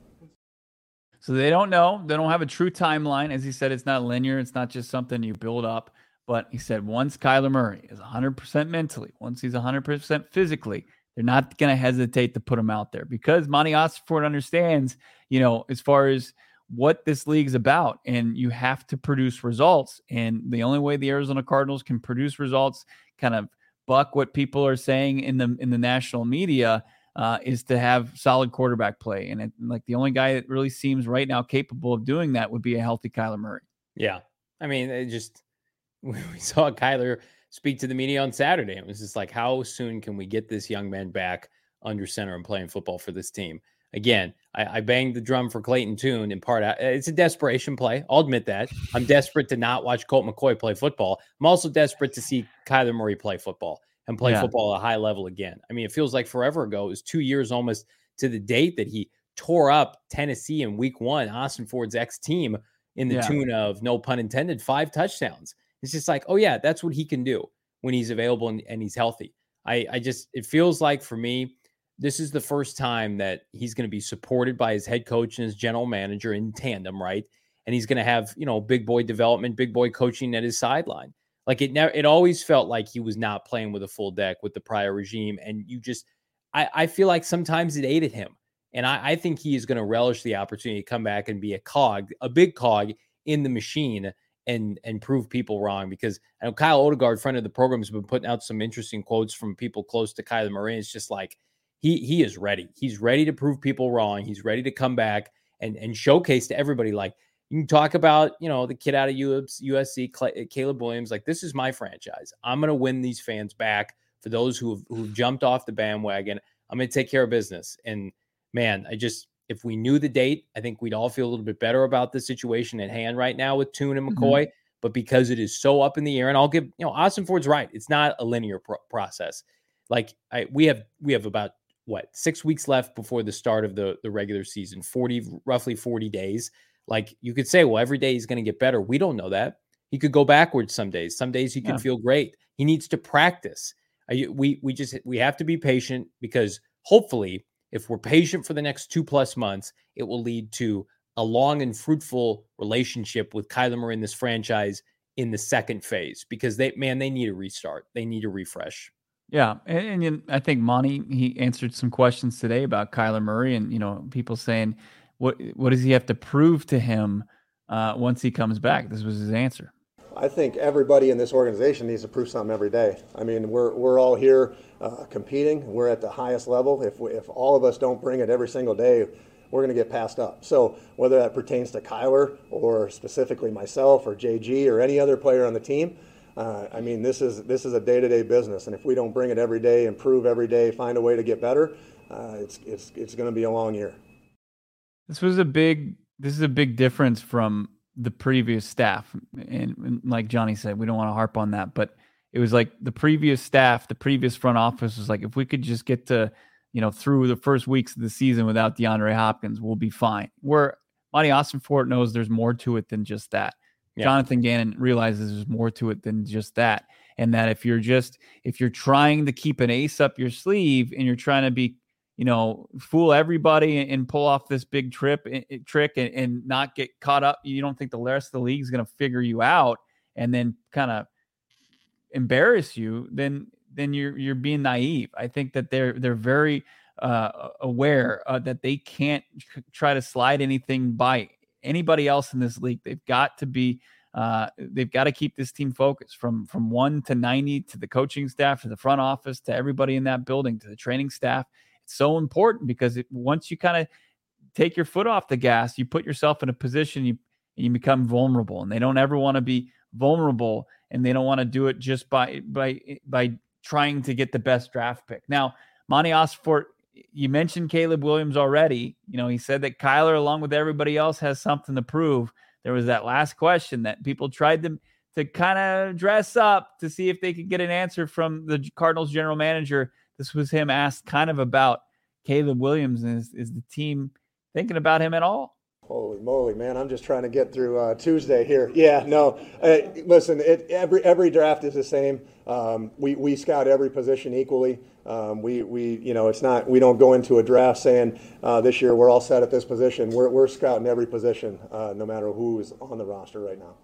S2: So they don't know. They don't have a true timeline. As he said, it's not linear. It's not just something you build up. But he said once Kyler Murray is one hundred percent mentally, once he's one hundred percent physically, they're not going to hesitate to put him out there because Monty Ossenford understands, you know, as far as what this league's about, and you have to produce results. And the only way the Arizona Cardinals can produce results, kind of buck what people are saying in the in the national media, uh, is to have solid quarterback play. And it, like the only guy that really seems right now capable of doing that would be a healthy Kyler Murray.
S1: Yeah, I mean, it just we saw Kyler speak to the media on Saturday. It was just like, how soon can we get this young man back under center and playing football for this team? Again, I, I banged the drum for Clayton Tune in part. It's a desperation play. I'll admit that. I'm desperate to not watch Colt McCoy play football. I'm also desperate to see Kyler Murray play football and play yeah. football at a high level again. I mean, it feels like forever ago. It was two years almost to the date that he tore up Tennessee in week one, Ossenford's ex-team, in the yeah. tune of, no pun intended, five touchdowns. It's just like, oh, yeah, that's what he can do when he's available and, and he's healthy. I, I just, it feels like for me, this is the first time that he's going to be supported by his head coach and his general manager in tandem, right? And he's going to have, you know, big boy development, big boy coaching at his sideline. Like it never, it always felt like he was not playing with a full deck with the prior regime. And you just, I, I feel like sometimes it ate at him. And I, I think he is going to relish the opportunity to come back and be a cog, a big cog in the machine and and prove people wrong. Because I know Kyle Odegaard, friend of the program, has been putting out some interesting quotes from people close to Kyler Murray. It's just like, He he is ready. He's ready to prove people wrong. He's ready to come back and, and showcase to everybody. Like, you can talk about, you know, the kid out of U S C, Caleb Williams. Like, this is my franchise. I'm going to win these fans back. For those who have who've jumped off the bandwagon, I'm going to take care of business. And, man, I just, if we knew the date, I think we'd all feel a little bit better about the situation at hand right now with Tune and McCoy. Mm-hmm. But because it is so up in the air, and I'll give, you know, Ossenford's right. It's not a linear pro- process. Like, I we have we have about, what, six weeks left before the start of the, the regular season, forty, roughly forty days. Like, you could say, well, every day he's going to get better. We don't know that. He could go backwards some days. Some days he yeah. can feel great. He needs to practice. I, we, we just, we have to be patient, because hopefully if we're patient for the next two plus months, it will lead to a long and fruitful relationship with Kyler Murray in this franchise in the second phase, because they, man, they need a restart. They need a refresh.
S2: Yeah, and, and I think Monty, he answered some questions today about Kyler Murray, and, you know, people saying, what what does he have to prove to him uh, once he comes back. This was his answer.
S3: I think everybody in this organization needs to prove something every day. I mean, we're we're all here uh, competing. We're at the highest level. If we, if all of us don't bring it every single day, we're going to get passed up. So whether that pertains to Kyler or specifically myself or J G or any other player on the team, uh, I mean, this is this is a day-to-day business. And if we don't bring it every day, improve every day, find a way to get better, uh, it's it's it's going to be a long year.
S2: This was a big. This is a big difference from the previous staff. And, and like Johnny said, we don't want to harp on that, but it was like the previous staff, the previous front office was like, if we could just get to, you know, through the first weeks of the season without DeAndre Hopkins, we'll be fine. Where Monty Ossenfort knows there's more to it than just that. Yeah. Jonathan Gannon realizes there's more to it than just that. And that if you're just, if you're trying to keep an ace up your sleeve and you're trying to be, you know, fool everybody and, and pull off this big trip and, trick and, and not get caught up, you don't think the rest of the league is going to figure you out and then kind of embarrass you, then then you're you're being naive. I think that they're they're very uh, aware uh, that they can't try to slide anything by anybody else in this league. They've got to be uh, they've got to keep this team focused from from one to ninety, to the coaching staff, to the front office, to everybody in that building, to the training staff. It's so important because it, once you kind of take your foot off the gas, you put yourself in a position you you become vulnerable, and they don't ever want to be vulnerable, and they don't want to do it just by by by trying to get the best draft pick. Now, Monty Ossenfort, you mentioned Caleb Williams already. You know, he said that Kyler, along with everybody else, has something to prove. There was that last question that people tried to to kind of dress up to see if they could get an answer from the Cardinals general manager. This was him asked kind of about Caleb Williams, and is, is the team thinking about him at all?
S3: Holy moly, man! I'm just trying to get through uh, Tuesday here. Yeah, no. Uh, listen, it, every every draft is the same. Um, we we scout every position equally. Um, we we you know it's not we don't go into a draft saying uh, this year we're all set at this position. We're we're scouting every position, uh, no matter who is on the roster right now.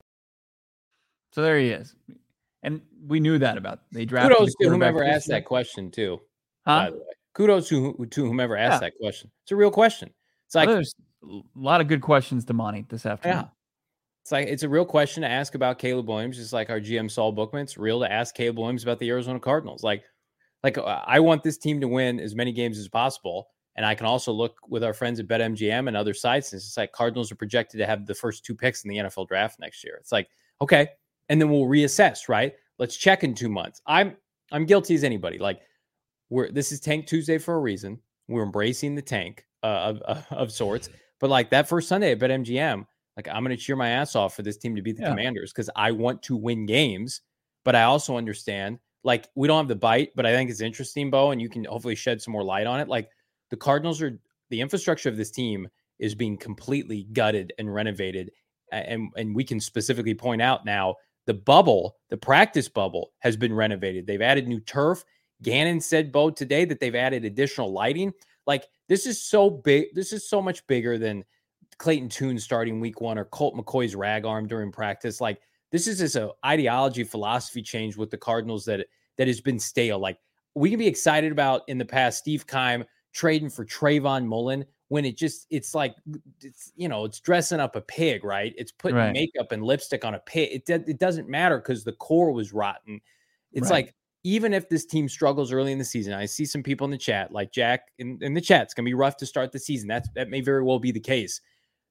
S2: So there he is, and we knew that about they drafted.
S1: Kudos to whomever asked that question too.
S2: Huh?
S1: By the way, kudos to to whomever asked
S2: Yeah.
S1: that question. It's a real question. It's like
S2: well, there's a lot of good questions to Monty this afternoon.
S1: Yeah. It's like it's a real question to ask about Caleb Williams, just like our G M Saul Bookman. It's real to ask Caleb Williams about the Arizona Cardinals. Like, like I want this team to win as many games as possible. And I can also look with our friends at BetMGM and other sites. And it's like Cardinals are projected to have the first two picks in the N F L draft next year. It's like, okay. And then we'll reassess, right? Let's check in two months. I'm I'm guilty as anybody. Like, we're this is Tank Tuesday for a reason. We're embracing the tank uh, of, of of sorts. But like that first Sunday at BetMGM, like I'm going to cheer my ass off for this team to beat the
S2: Yeah.
S1: Commanders because I want to win games. But I also understand, like, we don't have the bite, but I think it's interesting, Bo, and you can hopefully shed some more light on it. Like, the Cardinals are the infrastructure of this team is being completely gutted and renovated. And, and we can specifically point out now the bubble, the practice bubble has been renovated. They've added new turf. Gannon said, Bo, today that they've added additional lighting. Like, this is so big. This is so much bigger than Clayton Tune starting week one or Colt McCoy's rag arm during practice. Like, this is just an ideology philosophy change with the Cardinals that, that has been stale. Like, we can be excited about in the past Steve Keim trading for Trayvon Mullen when it just, it's like, it's, you know, it's dressing up a pig, right? It's putting
S2: Right.
S1: makeup and lipstick on a pig. It, it doesn't matter because the core was rotten. It's
S2: Right.
S1: like, even if this team struggles early in the season, I see some people in the chat, like Jack in, in the chat, it's going to be rough to start the season. That's, that may very well be the case.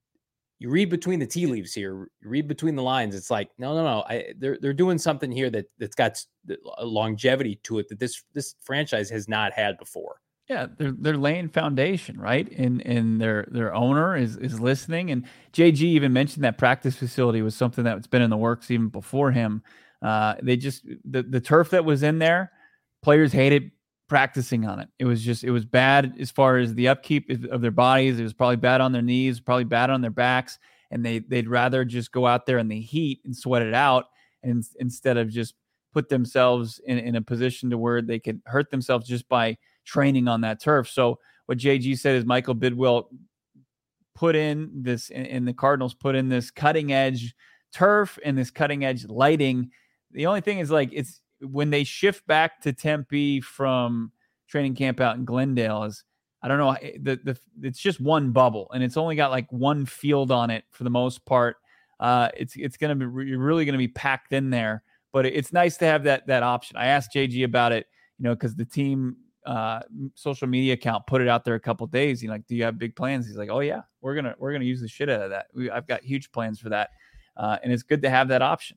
S1: You read between the tea leaves here, you read between the lines. It's like, no, no, no. I, they're, they're doing something here that that's got a longevity to it that this, this franchise has not had before.
S2: Yeah, they're they're laying foundation, right? And and their their owner is is listening. And J G even mentioned that practice facility was something that's been in the works even before him. Uh, they just the the turf that was in there, players hated practicing on it. It was just it was bad as far as the upkeep of their bodies. It was probably bad on their knees, probably bad on their backs, and they they'd rather just go out there in the heat and sweat it out, and instead of just put themselves in, in a position to where they could hurt themselves just by training on that turf. So what J G said is Michael Bidwell put in this, and the Cardinals put in this cutting edge turf and this cutting edge lighting. The only thing is, like, it's when they shift back to Tempe from training camp out in Glendale, is I don't know. The, the, it's just one bubble, and it's only got like one field on it for the most part. Uh, it's it's going to be you're really going to be packed in there, but it's nice to have that that option. I asked J G about it, you know, because the team uh, social media account put it out there a couple of days. He's like, "Do you have big plans?" He's like, "Oh yeah, we're gonna we're gonna use the shit out of that. We, I've got huge plans for that, uh, and it's good to have that option."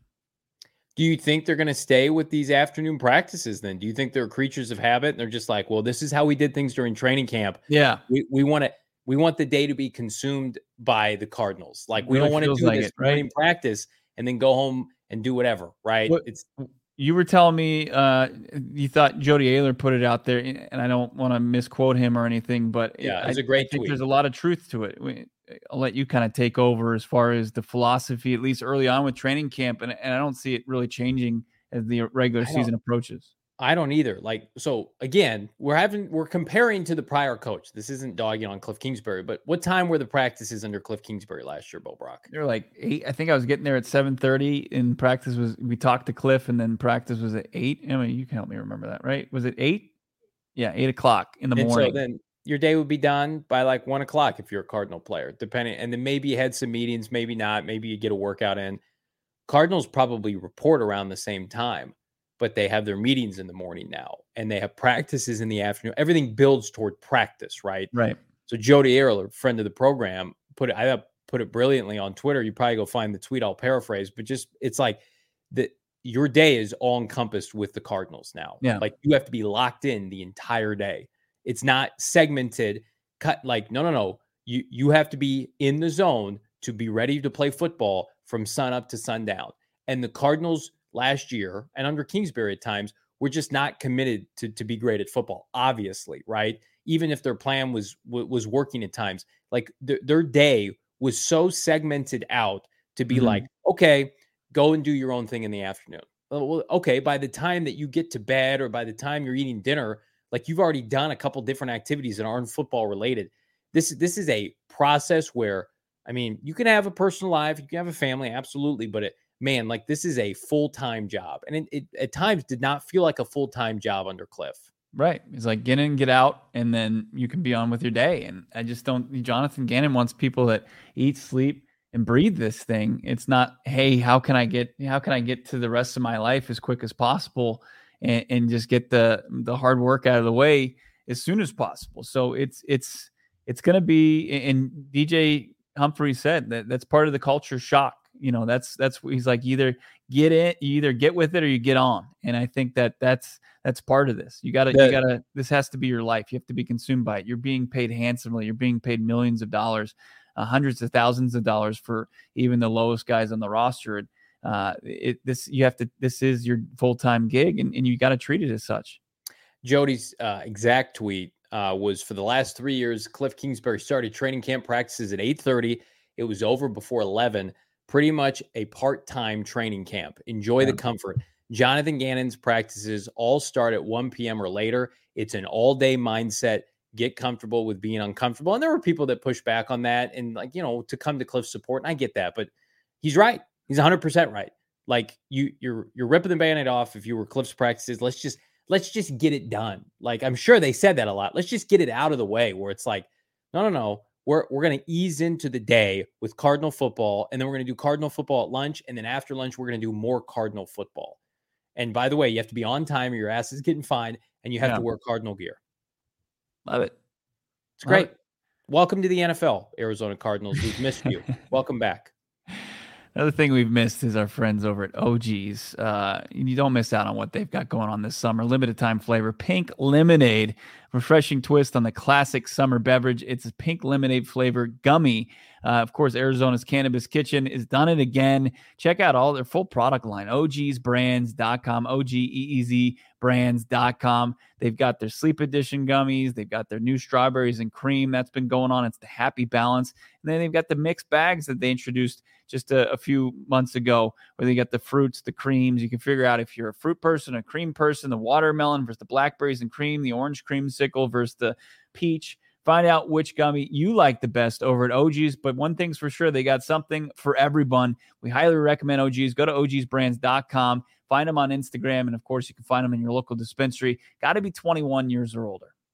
S1: Do you think they're going to stay with these afternoon practices then? Do you think they're creatures of habit and they're just like, well, this is how we did things during training camp.
S2: Yeah.
S1: We we want to we want the day to be consumed by the Cardinals. Like we really don't want to do like this it, right? in practice and then go home and do whatever, right?
S2: What,
S1: it's
S2: you were telling me uh, you thought Jody Ayler put it out there, and I don't want to misquote him or anything, but
S1: yeah,
S2: it
S1: was a great
S2: I think
S1: tweet.
S2: There's a lot of truth to it. We, I'll let you kind of take over as far as the philosophy, at least early on with training camp, and, and I don't see it really changing as the regular season approaches.
S1: I don't either. Like, so again, we're having, we're comparing to the prior coach. This isn't dogging on Cliff Kingsbury, but what time were the practices under Cliff Kingsbury last year, Bo Brock?
S2: They're like eight. I think I was getting there at seven thirty, and practice was, we talked to Cliff, and then practice was at eight. I mean, you can help me remember that, right? Was it eight? Yeah. Eight o'clock in the
S1: and
S2: morning.
S1: So then your day would be done by like one o'clock if you're a Cardinal player, depending. And then maybe you had some meetings, maybe not. Maybe you get a workout in. Cardinals probably report around the same time, but they have their meetings in the morning now, and they have practices in the afternoon. Everything builds toward practice, right?
S2: Right.
S1: So Jody Ayler, friend of the program, put it, I put it brilliantly on Twitter. You probably go find the tweet. I'll paraphrase, but just it's like that. Your day is all encompassed with the Cardinals now.
S2: Yeah.
S1: Like you have to be locked in the entire day. It's not segmented, cut like, no, no, no. You, you have to be in the zone to be ready to play football from sun up to sundown. And the Cardinals last year and under Kingsbury at times were just not committed to, to be great at football, obviously, right? Even if their plan was, was working at times, like th- their day was so segmented out to be mm-hmm. like, okay, go and do your own thing in the afternoon. Well, okay, by the time that you get to bed or by the time you're eating dinner, like you've already done a couple different activities that aren't football related. This, this is a process where, I mean, you can have a personal life, you can have a family, absolutely. But it, man, like this is a full-time job. And it, it at times did not feel like a full-time job under Cliff.
S2: Right. It's like get in, get out, and then you can be on with your day. And I just don't, Jonathan Gannon wants people that eat, sleep, and breathe this thing. It's not, hey, how can I get, how can I get to the rest of my life as quick as possible and, and just get the, the hard work out of the way as soon as possible. So it's, it's, it's going to be, and D J Humphrey said that that's part of the culture shock. You know, that's, that's, he's like, either get in, you either get with it or you get on. And I think that that's, that's part of this. You gotta, yeah. you gotta, this has to be your life. You have to be consumed by it. You're being paid handsomely. You're being paid millions of dollars. Uh, hundreds of thousands of dollars for even the lowest guys on the roster. Uh, it, this you have to. This is your full time gig, and, and you got to treat it as such.
S1: Jody's uh, exact tweet uh, was for the last three years. Cliff Kingsbury started training camp practices at eight thirty. It was over before eleven. Pretty much a part time training camp. Enjoy yeah. the comfort. Jonathan Gannon's practices all start at one p.m. or later. It's an all day mindset. Get comfortable with being uncomfortable. And there were people that push back on that and like, you know, to come to Cliff's support. And I get that, but he's right. He's one hundred percent right. Like you, you're, you're ripping the Band-Aid off. If you were Cliff's practices, let's just, let's just get it done. Like, I'm sure they said that a lot. Let's just get it out of the way where it's like, no, no, no. We're, we're going to ease into the day with Cardinal football. And then we're going to do Cardinal football at lunch. And then after lunch, we're going to do more Cardinal football. And by the way, you have to be on time or your ass is getting fined and you have yeah. to wear Cardinal gear.
S2: Love it.
S1: It's great. It. Welcome to the N F L, Arizona Cardinals. We've missed you. Welcome back.
S2: Another thing we've missed is our friends over at O G's. Uh, you don't miss out on what they've got going on this summer. Limited time flavor, pink lemonade, refreshing twist on the classic summer beverage. It's a pink lemonade flavor gummy. Uh, of course, Arizona's Cannabis Kitchen has done it again. Check out all their full product line, O Gs brands dot com, O G E E Z brands dot com. They've got their sleep edition gummies. They've got their new strawberries and cream that's been going on. It's the Happy Balance. And then they've got the mixed bags that they introduced just a, a few months ago, where they got the fruits, the creams. You can figure out if you're a fruit person, a cream person, the watermelon versus the blackberries and cream, the orange creamsicle versus the peach. Find out which gummy you like the best over at O G's. But one thing's for sure, they got something for everyone. We highly recommend O G's. Go to O Gs brands dot com. Find them on Instagram. And, of course, you can find them in your local dispensary. Got to be twenty-one years or older.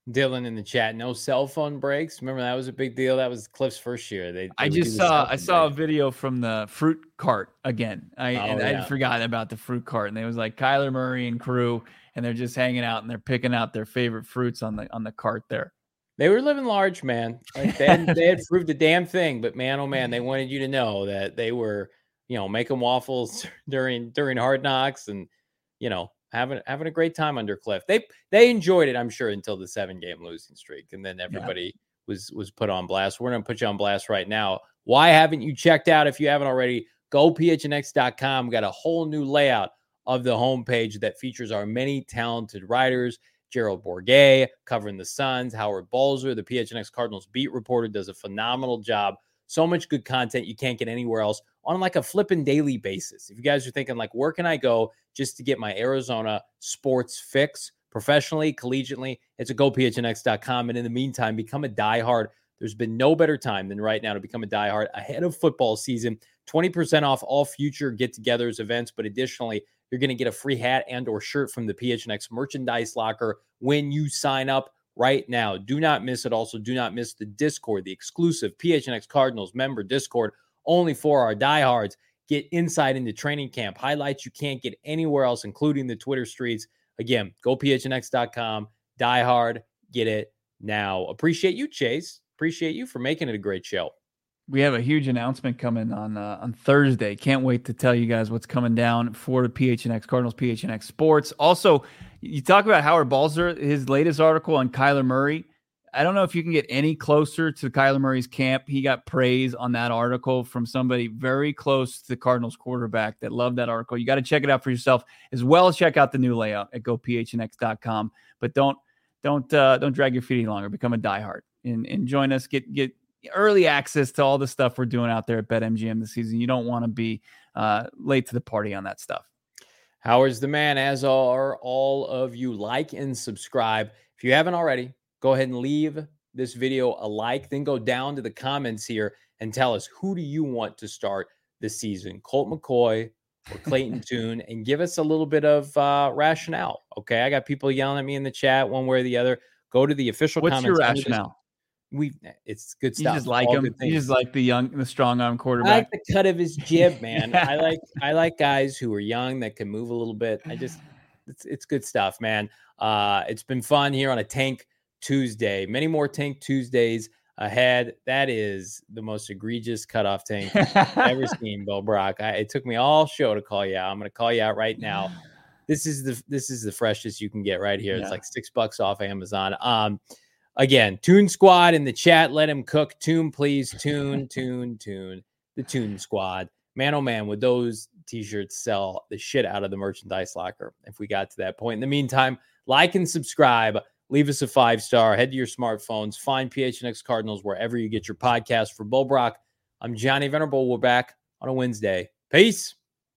S1: Dylan in the chat, no cell phone breaks. Remember that was a big deal. That was Cliff's first year. They, they
S2: I just saw I saw break. a video from the fruit cart again. I oh, and yeah. I'd forgotten about the fruit cart, and it was like Kyler Murray and crew, and they're just hanging out and they're picking out their favorite fruits on the on the cart there.
S1: They were living large, man. Like they had, they had proved a damn thing, but man, oh man, they wanted you to know that they were, you know, making waffles during during Hard Knocks, and you know, having having a great time under Cliff. They they enjoyed it, I'm sure, until the seven game losing streak, and then everybody yeah. was was put on blast. We're gonna put you on blast right now. Why haven't you checked out? If you haven't already, go P H N X dot com. We got a whole new layout of the homepage that features our many talented writers. Gerald Bourguet covering the Suns, Howard Balzer, the P H N X Cardinals beat reporter, does a phenomenal job. So much good content you can't get anywhere else on like a flipping daily basis. If you guys are thinking like, where can I go just to get my Arizona sports fix professionally, collegiately, it's a go P H N X dot com. And in the meantime, become a diehard. There's been no better time than right now to become a diehard ahead of football season. twenty percent off all future get-togethers, events, but additionally, you're going to get a free hat and or shirt from the P H N X merchandise locker when you sign up right now. Do not miss it. Also, do not miss the Discord, the exclusive P H N X Cardinals member Discord, only for our diehards. Get insight into training camp, highlights you can't get anywhere else, including the Twitter streets. Again, go P H N X dot com, diehard, get it now. Appreciate you, Chase. Appreciate you for making it a great show.
S2: We have a huge announcement coming on uh, on Thursday. Can't wait to tell you guys what's coming down for the P H N X Cardinals, P H N X Sports. Also, you talk about Howard Balzer, his latest article on Kyler Murray. I don't know if you can get any closer to Kyler Murray's camp. He got praise on that article from somebody very close to the Cardinals quarterback that loved that article. You got to check it out for yourself, as well as check out the new layout at go P H N X dot com. But don't don't uh, don't drag your feet any longer. Become a diehard and, and join us. Get get. early access to all the stuff we're doing out there at BetMGM this season. You don't want to be uh, late to the party on that stuff.
S1: Howard's the man, as are all of you. Like and subscribe. If you haven't already, go ahead and leave this video a like. Then go down to the comments here and tell us, who do you want to start this season? Colt McCoy or Clayton Tune? And give us a little bit of uh, rationale. Okay, I got people yelling at me in the chat one way or the other. Go to the official
S2: What's
S1: comments.
S2: What's your rationale?
S1: We it's good stuff.
S2: You just like him. You just like the young, the strong arm quarterback.
S1: I like the cut of his jib, man. I like I like guys who are young that can move a little bit. I just it's it's good stuff, man. Uh, it's been fun here on a Tank Tuesday. Many more Tank Tuesdays ahead. That is the most egregious cutoff tank I've ever seen, Bill Brock. I, it took me all show to call you out. I'm going to call you out right now. This is the this is the freshest you can get right here. Yeah. It's like six bucks off Amazon. Um. Again, Tune Squad in the chat. Let him cook. Tune, please. Tune, tune, tune. The Tune Squad. Man, oh man, would those t-shirts sell the shit out of the merchandise locker if we got to that point. In the meantime, like and subscribe. Leave us a five-star. Head to your smartphones. Find P H N X Cardinals wherever you get your podcast. For Bull Brock, I'm Johnny Venerable. We're back on a Wednesday. Peace.